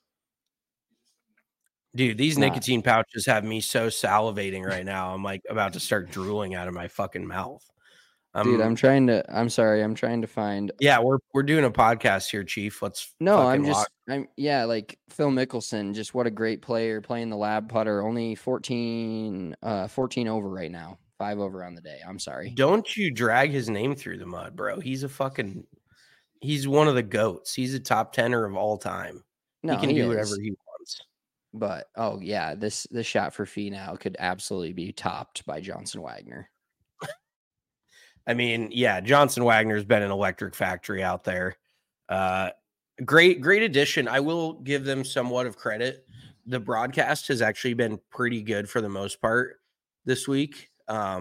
Dude, these nicotine pouches have me so salivating right now. I'm like about to start drooling out of my fucking mouth. Dude, I'm trying to find. Yeah, we're doing a podcast here, Chief. Let's like Phil Mickelson, just what a great player playing the Lab putter. Only 14 over right now. 5 over on the day. I'm sorry. Don't you drag his name through the mud, bro. He's one of the GOATs. He's a top 10er of all time. No, he can do whatever he wants. But oh yeah, this shot for Finau could absolutely be topped by Johnson Wagner. I mean, yeah, Johnson Wagner's been an electric factory out there. Great addition. I will give them somewhat of credit. The broadcast has actually been pretty good for the most part this week.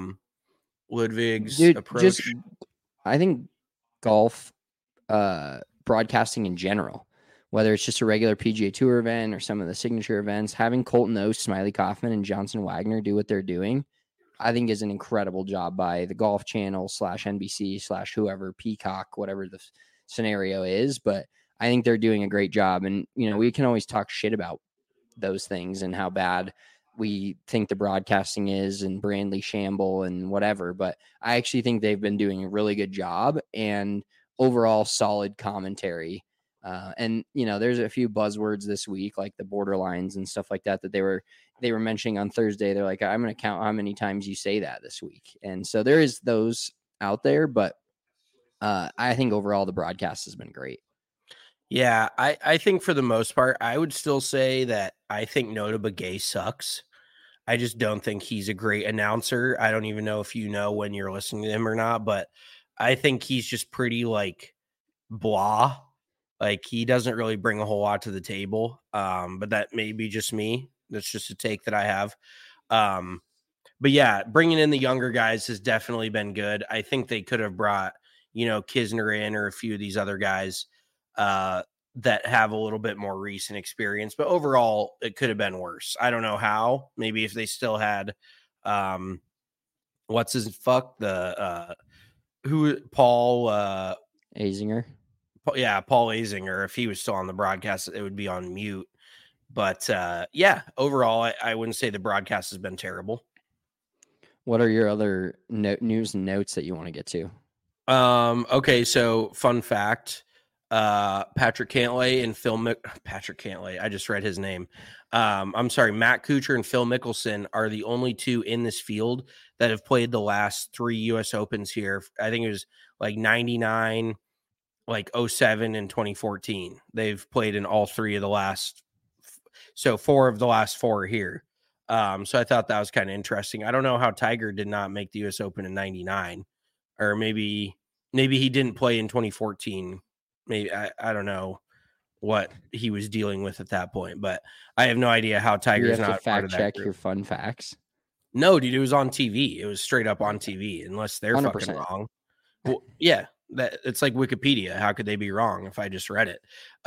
Ludwig's approach. I think golf broadcasting in general, whether it's just a regular PGA Tour event or some of the signature events, having Colton Oast, Smiley Kaufman, and Johnson Wagner do what they're doing, I think is an incredible job by the Golf Channel /NBC /whoever, Peacock, whatever the scenario is. But I think they're doing a great job. And, you know, we can always talk shit about those things and how bad we think the broadcasting is and Brandley Shamble and whatever. But I actually think they've been doing a really good job and overall solid commentary. And, you know, there's a few buzzwords this week, like the borderlines and stuff like that they were mentioning on Thursday. They're like, I'm going to count how many times you say that this week. And so there is those out there, but I think overall the broadcast has been great. Yeah, I think for the most part, I would still say that I think Nota Begay sucks. I just don't think he's a great announcer. I don't even know if you know when you're listening to him or not, but I think he's just pretty like blah. Like he doesn't really bring a whole lot to the table. But that may be just me. That's just a take that I have. But yeah, bringing in the younger guys has definitely been good. I think they could have brought, Kisner in or a few of these other guys that have a little bit more recent experience. But overall, it could have been worse. I don't know how. Maybe if they still had, what's his fuck the Paul Azinger. Paul Azinger. If he was still on the broadcast, it would be on mute. But yeah, overall, I wouldn't say the broadcast has been terrible. What are your other news and notes that you want to get to? Okay, so fun fact, Patrick Cantlay and Patrick Cantlay, I just read his name. I'm sorry, Matt Kuchar and Phil Mickelson are the only two in this field that have played the last 3 US Opens here. I think it was like 99, like 07 and 2014. They've played in all 3 of the last, so 4 of the last 4 are here. So I thought that was kind of interesting. I don't know how Tiger did not make the US Open in 99, or maybe he didn't play in 2014. Maybe I don't know what he was dealing with at that point, but I have no idea how Tiger's not fact check your fun facts. No, dude, it was on TV. It was straight up on TV, unless they're 100%. Fucking wrong. Well, yeah, that it's like Wikipedia. How could they be wrong if I just read it?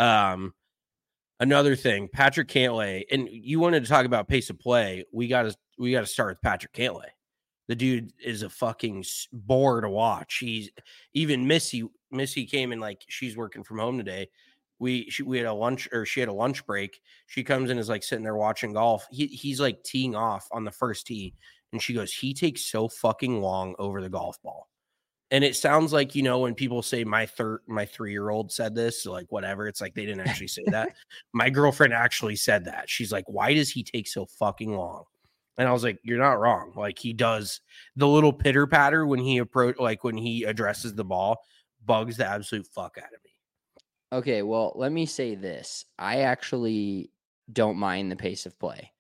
Another thing, Patrick Cantlay, and you wanted to talk about pace of play. We got to start with Patrick Cantlay. The dude is a fucking bore to watch. He's even Missy came in, like, she's working from home today. We had a lunch, or she had a lunch break. She comes in, is like sitting there watching golf. He's like teeing off on the first tee, and she goes, he takes so fucking long over the golf ball. And it sounds like, when people say my 3-year-old said this, like whatever, it's like they didn't actually say that. My girlfriend actually said that. She's like, why does he take so fucking long? And I was like, you're not wrong. Like, he does the little pitter patter when he addresses the ball, bugs the absolute fuck out of me. Okay, well, let me say this. I actually don't mind the pace of play.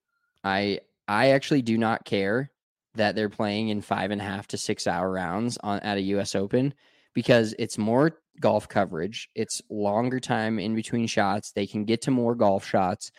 I actually do not care that they're playing in 5.5 to 6 hour rounds at a US Open, because it's more golf coverage. It's longer time in between shots. They can get to more golf shots.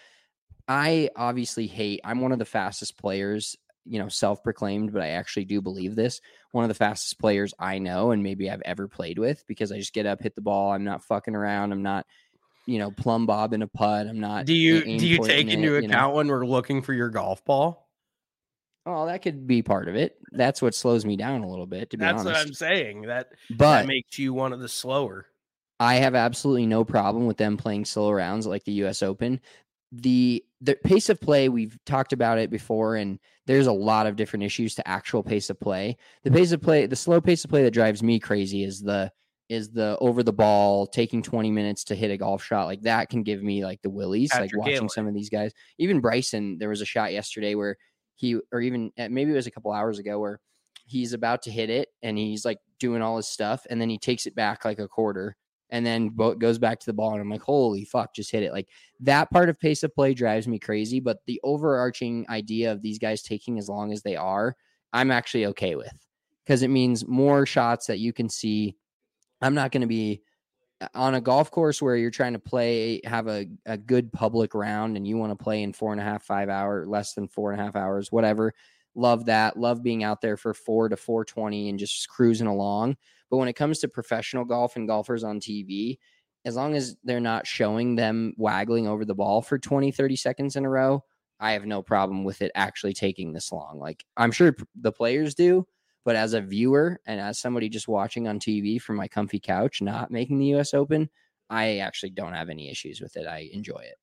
I obviously I'm one of the fastest players, self-proclaimed, but I actually do believe this. One of the fastest players I know, and maybe I've ever played with, because I just get up, hit the ball. I'm not fucking around. I'm not, plumb bobbing a putt. I'm not. Do you take into account when we're looking for your golf ball? Oh, that could be part of it. That's what slows me down a little bit, to be honest. That's what I'm saying. That makes you one of the slower. I have absolutely no problem with them playing slow rounds like the US Open. The pace of play, we've talked about it before, and there's a lot of different issues to actual pace of play. The slow pace of play that drives me crazy is the over the ball, taking 20 minutes to hit a golf shot. Like, that can give me like the willies, like watching some of these guys. Even Bryson, there was a shot yesterday where maybe it was a couple hours ago, where he's about to hit it and he's like doing all his stuff, and then he takes it back like a quarter and then goes back to the ball. And I'm like, holy fuck, just hit it. Like, that part of pace of play drives me crazy. But the overarching idea of these guys taking as long as they are, I'm actually okay with, because it means more shots that you can see. I'm not going to be on a golf course where you're trying to have a good public round, and you want to play in 4.5, 5 hours, less than 4.5 hours, whatever. Love that. Love being out there for 4 to 4:20 and just cruising along. But when it comes to professional golf and golfers on TV, as long as they're not showing them waggling over the ball for 20, 30 seconds in a row, I have no problem with it actually taking this long. Like, I'm sure the players do, but as a viewer and as somebody just watching on TV from my comfy couch, not making the US Open, I actually don't have any issues with it. I enjoy it.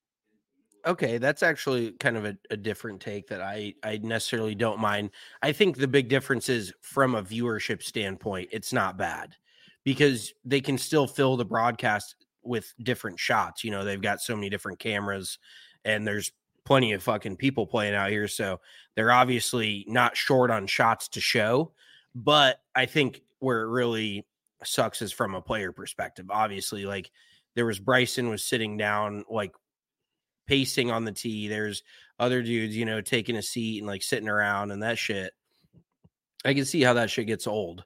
Okay, that's actually kind of a different take that I necessarily don't mind. I think the big difference is, from a viewership standpoint, it's not bad, because they can still fill the broadcast with different shots. They've got so many different cameras, and there's plenty of fucking people playing out here. So they're obviously not short on shots to show. But I think where it really sucks is from a player perspective. Obviously, like, there was Bryson was sitting down, like, pacing on the tee. There's other dudes, taking a seat and like sitting around, and that shit, I can see how that shit gets old.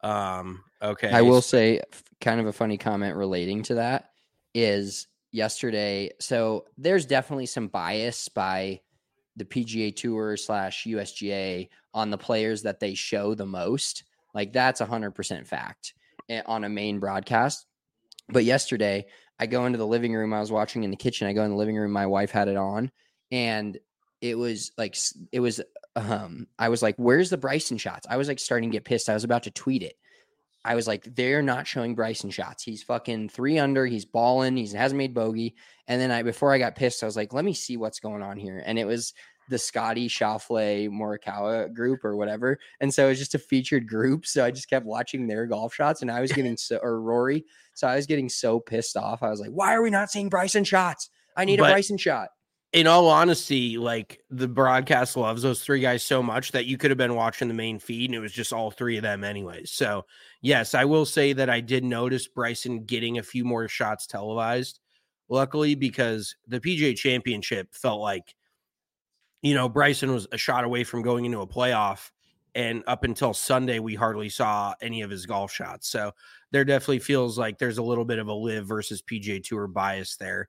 Okay. I will say, kind of a funny comment relating to that is yesterday. So there's definitely some bias by the PGA Tour / USGA on the players that they show the most. Like that's 100% fact on a main broadcast. But yesterday I go into the living room. I was watching in the kitchen. I go in the living room. My wife had it on, and I was like, where's the Bryson shots? I was like starting to get pissed. I was about to tweet it. I was like, they're not showing Bryson shots. He's fucking 3 under. He's balling. He hasn't made bogey. And then before I got pissed, I was like, let me see what's going on here. And it was the Scotty Schauffele Morikawa group or whatever. And so it was just a featured group. So I just kept watching their golf shots, and I was getting or Rory. So I was getting so pissed off. I was like, why are we not seeing Bryson shots? I need a Bryson shot. In all honesty, like the broadcast loves those 3 guys so much that you could have been watching the main feed and it was just all 3 of them anyways. So yes, I will say that I did notice Bryson getting a few more shots televised, luckily, because the PGA Championship felt like, Bryson was a shot away from going into a playoff. And up until Sunday, we hardly saw any of his golf shots. So there definitely feels like there's a little bit of a LIV versus PGA Tour bias there.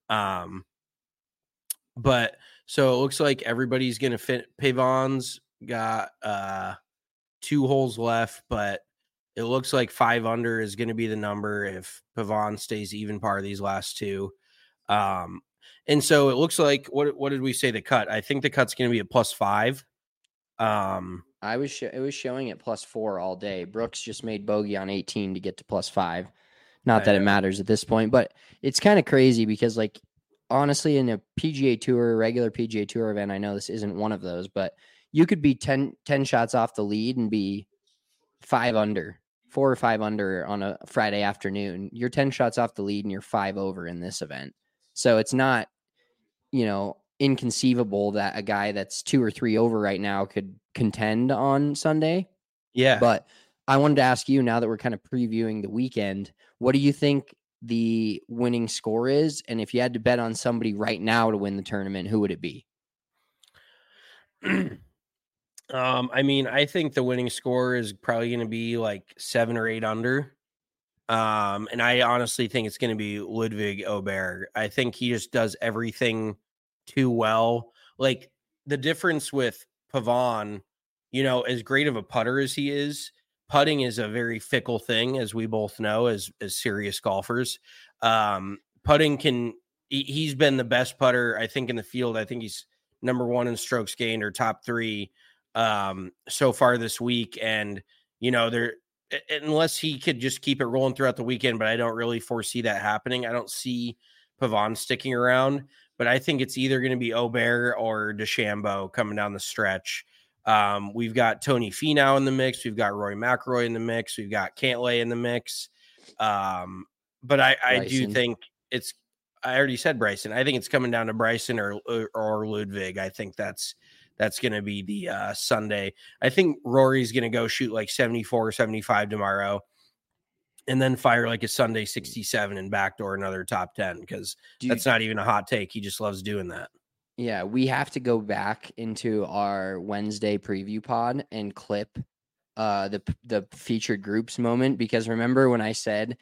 But so it looks like everybody's going to fit. Pavon's got 2 holes left, but it looks like 5 under is going to be the number if Pavon stays even par these last 2. And so it looks like, what did we say the cut? I think the cut's going to be at +5. It was showing at +4 all day. Brooks just made bogey on 18 to get to +5. Not that it matters at this point, but it's kind of crazy because, like, honestly, in a PGA Tour, regular PGA Tour event, I know this isn't one of those, but you could be 10 shots off the lead and be 5 under, 4 or 5 under on a Friday afternoon. You're 10 shots off the lead and you're 5 over in this event. So it's not, inconceivable that a guy that's 2 or 3 over right now could contend on Sunday. Yeah. But I wanted to ask you, now that we're kind of previewing the weekend, what do you think the winning score is? And if you had to bet on somebody right now to win the tournament, who would it be? I think the winning score is probably going to be like 7 or 8 under. And I honestly think it's going to be Ludwig Aubert. I think he just does everything too well. Like the difference with Pavon, as great of a putter as he is, putting is a very fickle thing, as we both know, as serious golfers. Putting he's been the best putter, I think, in the field. I think he's number 1 in strokes gained or top 3 so far this week. And, unless he could just keep it rolling throughout the weekend, but I don't really foresee that happening. I don't see Pavon sticking around, but I think it's either going to be Aubert or DeChambeau coming down the stretch. We've got Tony Finau in the mix. We've got Rory McIlroy in the mix. We've got Cantlay in the mix. But I do think I already said Bryson. I think it's coming down to Bryson or Ludwig. I think that's going to be the Sunday. I think Rory's going to go shoot like 74, 75 tomorrow and then fire like a Sunday 67 and backdoor another top 10, because that's not even a hot take. He just loves doing that. Yeah, we have to go back into our Wednesday preview pod and clip the featured groups moment, because remember when I said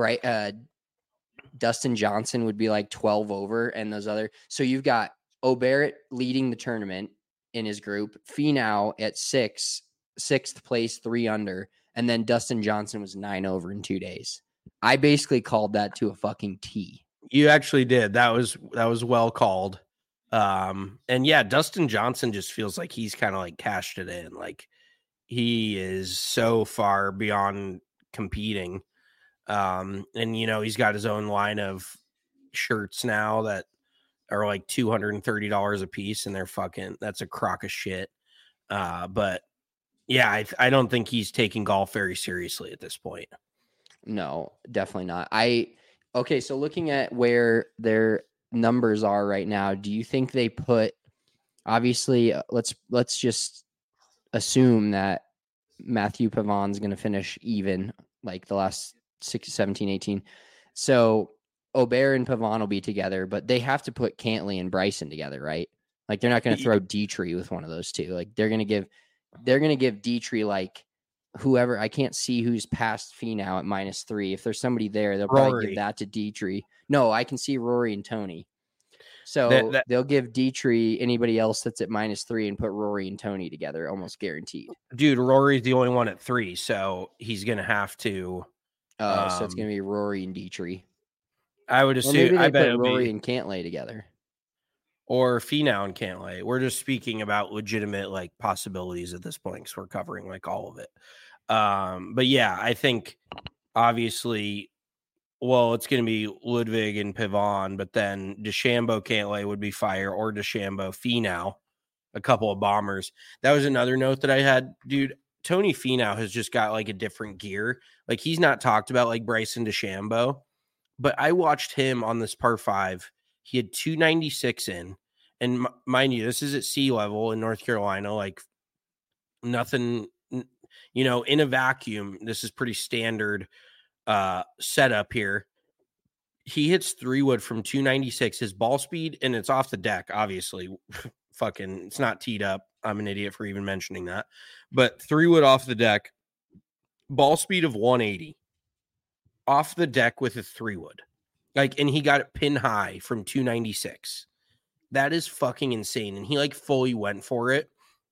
Dustin Johnson would be like 12 over and those other. So you've got Aubert leading the tournament in his group, Finau at 6th place, 3 under, and then Dustin Johnson was 9 over in 2 days. I basically called that to a fucking T. You actually did. That was well called. And yeah, Dustin Johnson just feels like he's kind of like cashed it in. Like he is so far beyond competing. And he's got his own line of shirts now that are like $230 a piece, and that's a crock of shit. But yeah, I don't think he's taking golf very seriously at this point. No, definitely not. Okay, so looking at where their numbers are right now, do you think they put, obviously, let's just assume that Matthew Pavon's going to finish even like the last 17, 18. So Aubert and Pavon will be together, but they have to put Cantlay and Bryson together, right? Like they're not going to throw Dietrich with one of those two. Like they're going to give Dietrich like whoever. I can't see who's past Finau at -3. If there's somebody there, they'll probably give that to Dietrich. No, I can see Rory and Tony. So that they'll give Dietrich anybody else that's at -3 and put Rory and Tony together, almost guaranteed. dude, Rory's the only one at 3, so he's gonna have to. Oh, so it's gonna be Rory and Dietrich. I would Or assume. maybe I they bet put it'll Rory be and Cantlay together. or Finau and Cantlay. We're just speaking about legitimate like possibilities at this point because we're covering like all of it. But yeah, I think obviously. Well, it's going to be Ludwig and Pavon, but then DeChambeau Cantlay would be fire, or DeChambeau Finau, a couple of bombers. That was another note that I had, dude. Tony Finau has just got like a different gear. Like he's not talked about like Bryson DeChambeau, but I watched him on this par 5. He had 296 in, and mind you, this is at sea level in North Carolina. Like nothing, in a vacuum. This is pretty standard setup here. He hits 3-wood from 296. His ball speed, and it's off the deck, obviously. Fucking, it's not teed up. I'm an idiot for even mentioning that. But 3-wood off the deck, ball speed of 180. Off the deck with a 3-wood. Like, and he got it pin high from 296. That is fucking insane. And he like fully went for it.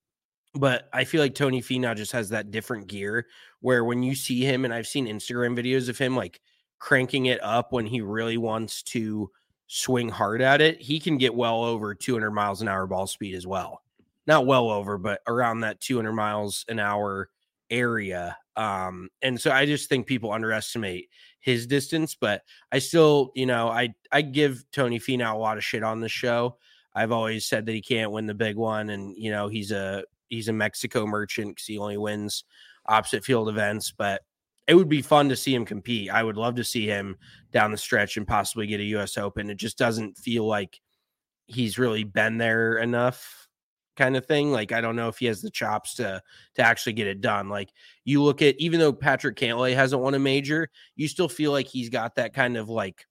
But I feel like Tony Finau just has that different gear where when you see him, and I've seen Instagram videos of him like cranking it up when he really wants to swing hard at it, he can get well over 200 miles an hour ball speed as well. Not well over, but around that 200 miles an hour area. And so I just think people underestimate his distance, but I still, I give Tony Finau a lot of shit on this show. I've always said that he can't win the big one. And, he's a Mexico merchant because he only wins opposite field events, but it would be fun to see him compete. I would love to see him down the stretch and possibly get a US Open. It just doesn't feel like he's really been there enough kind of thing. Like, I don't know if he has the chops to actually get it done. Like you look at, even though Patrick Cantlay hasn't won a major, you still feel like he's got that kind of like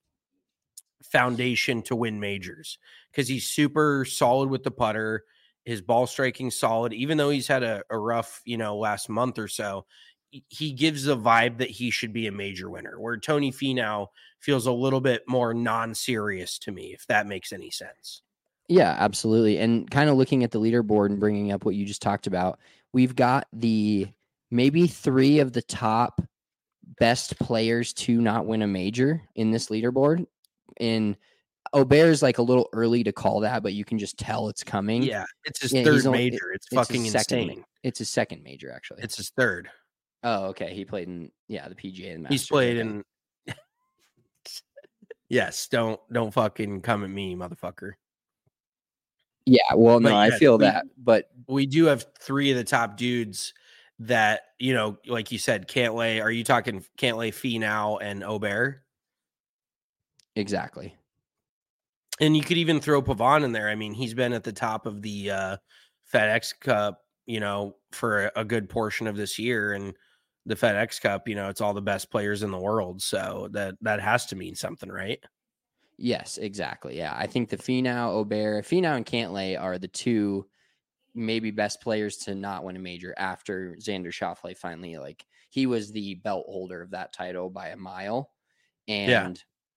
foundation to win majors because he's super solid with the putter. His ball striking solid, even though he's had a rough, last month or so. He gives the vibe that he should be a major winner, where Tony Finau feels a little bit more non-serious to me, if that makes any sense. Yeah, absolutely. And kind of looking at the leaderboard and bringing up what you just talked about, we've got maybe 3 of the top best players to not win a major in this leaderboard. And Aubert's like a little early to call that, but you can just tell it's coming. Yeah, it's his third major. It's fucking insane. It's his second major, actually. It's his third. Oh, okay. He played in the PGA and Masters. He's played in. Yes, don't fucking come at me, motherfucker. Yeah, well, no, I feel that, but we do have 3 of the top dudes that, like you said, Cantlay. Are you talking Cantlay, Finau, and Aubert? Exactly. And you could even throw Pavon in there. I mean, he's been at the top of the FedEx Cup, for a good portion of this year, and the FedEx Cup, it's all the best players in the world. So that has to mean something, right? Yes, exactly. Yeah. I think the Finau and Cantlay are the 2 maybe best players to not win a major after Xander Schauffele finally, like, he was the belt holder of that title by a mile. And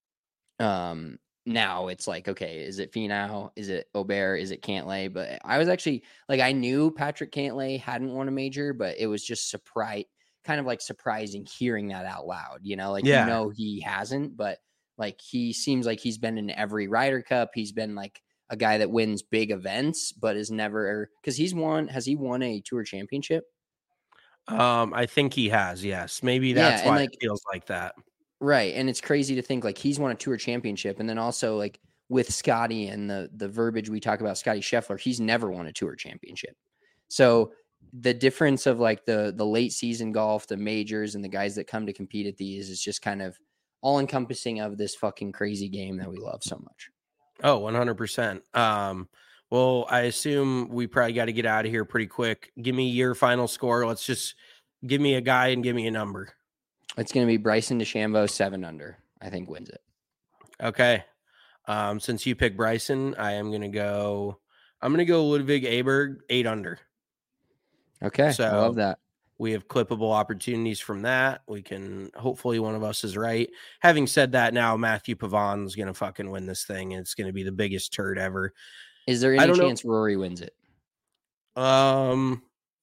now it's like, okay, is it Finau? Is it Aubert? Is it Cantlay? But I was actually like, I knew Patrick Cantlay hadn't won a major, but it was just surprising hearing that out loud, he hasn't, but like, he seems like he's been in every Ryder Cup. He's been like a guy that wins big events, but is never, because has he won a tour championship? I think he has, yes. Maybe that's why it feels like that. Right. And it's crazy to think like he's won a tour championship. And then also like with Scotty and the verbiage we talk about Scotty Scheffler, he's never won a tour championship. So the difference of like the late season golf, the majors, and the guys that come to compete at these is just kind of all encompassing of this fucking crazy game that we love so much. Oh, 100%. Well, I assume we probably got to get out of here pretty quick. Give me your final score. Let's just give me a guy and give me a number. It's going to be Bryson DeChambeau 7 under, I think, wins it. Okay. Since you picked Bryson, I'm going to go Ludwig Aberg 8 under. Okay. So I love that. We have clippable opportunities from that. We can, hopefully one of us is right. Having said that, now Matthew Pavon's going to fucking win this thing, and it's going to be the biggest turd ever. Is there any chance Rory wins it? No,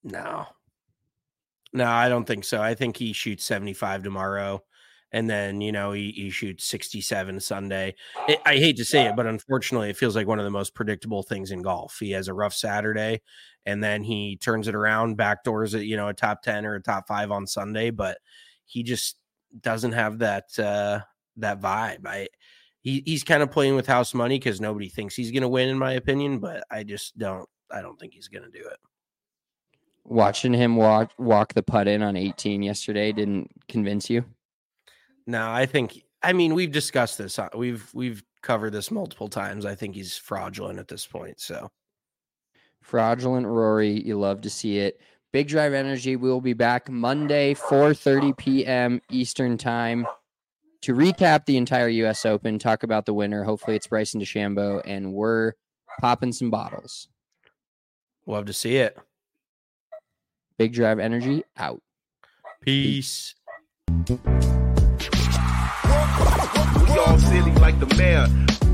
I don't think so. I think he shoots 75 tomorrow. And then, he shoots 67 Sunday. I hate to say it, but unfortunately, it feels like one of the most predictable things in golf. He has a rough Saturday, and then he turns it around, backdoors it, a top 10 or a top 5 on Sunday, but he just doesn't have that vibe. He's kind of playing with house money because nobody thinks he's going to win, in my opinion, but I don't think he's going to do it. Watching him walk the putt in on 18 yesterday didn't convince you? No, we've discussed this. We've covered this multiple times. I think he's fraudulent at this point. So fraudulent Rory. You love to see it. Big Drive Energy will be back Monday, 4:30 p.m. Eastern time to recap the entire U.S. Open, talk about the winner. Hopefully it's Bryson DeChambeau, and we're popping some bottles. Love to see it. Big Drive Energy out. Peace. We all silly like the mayor.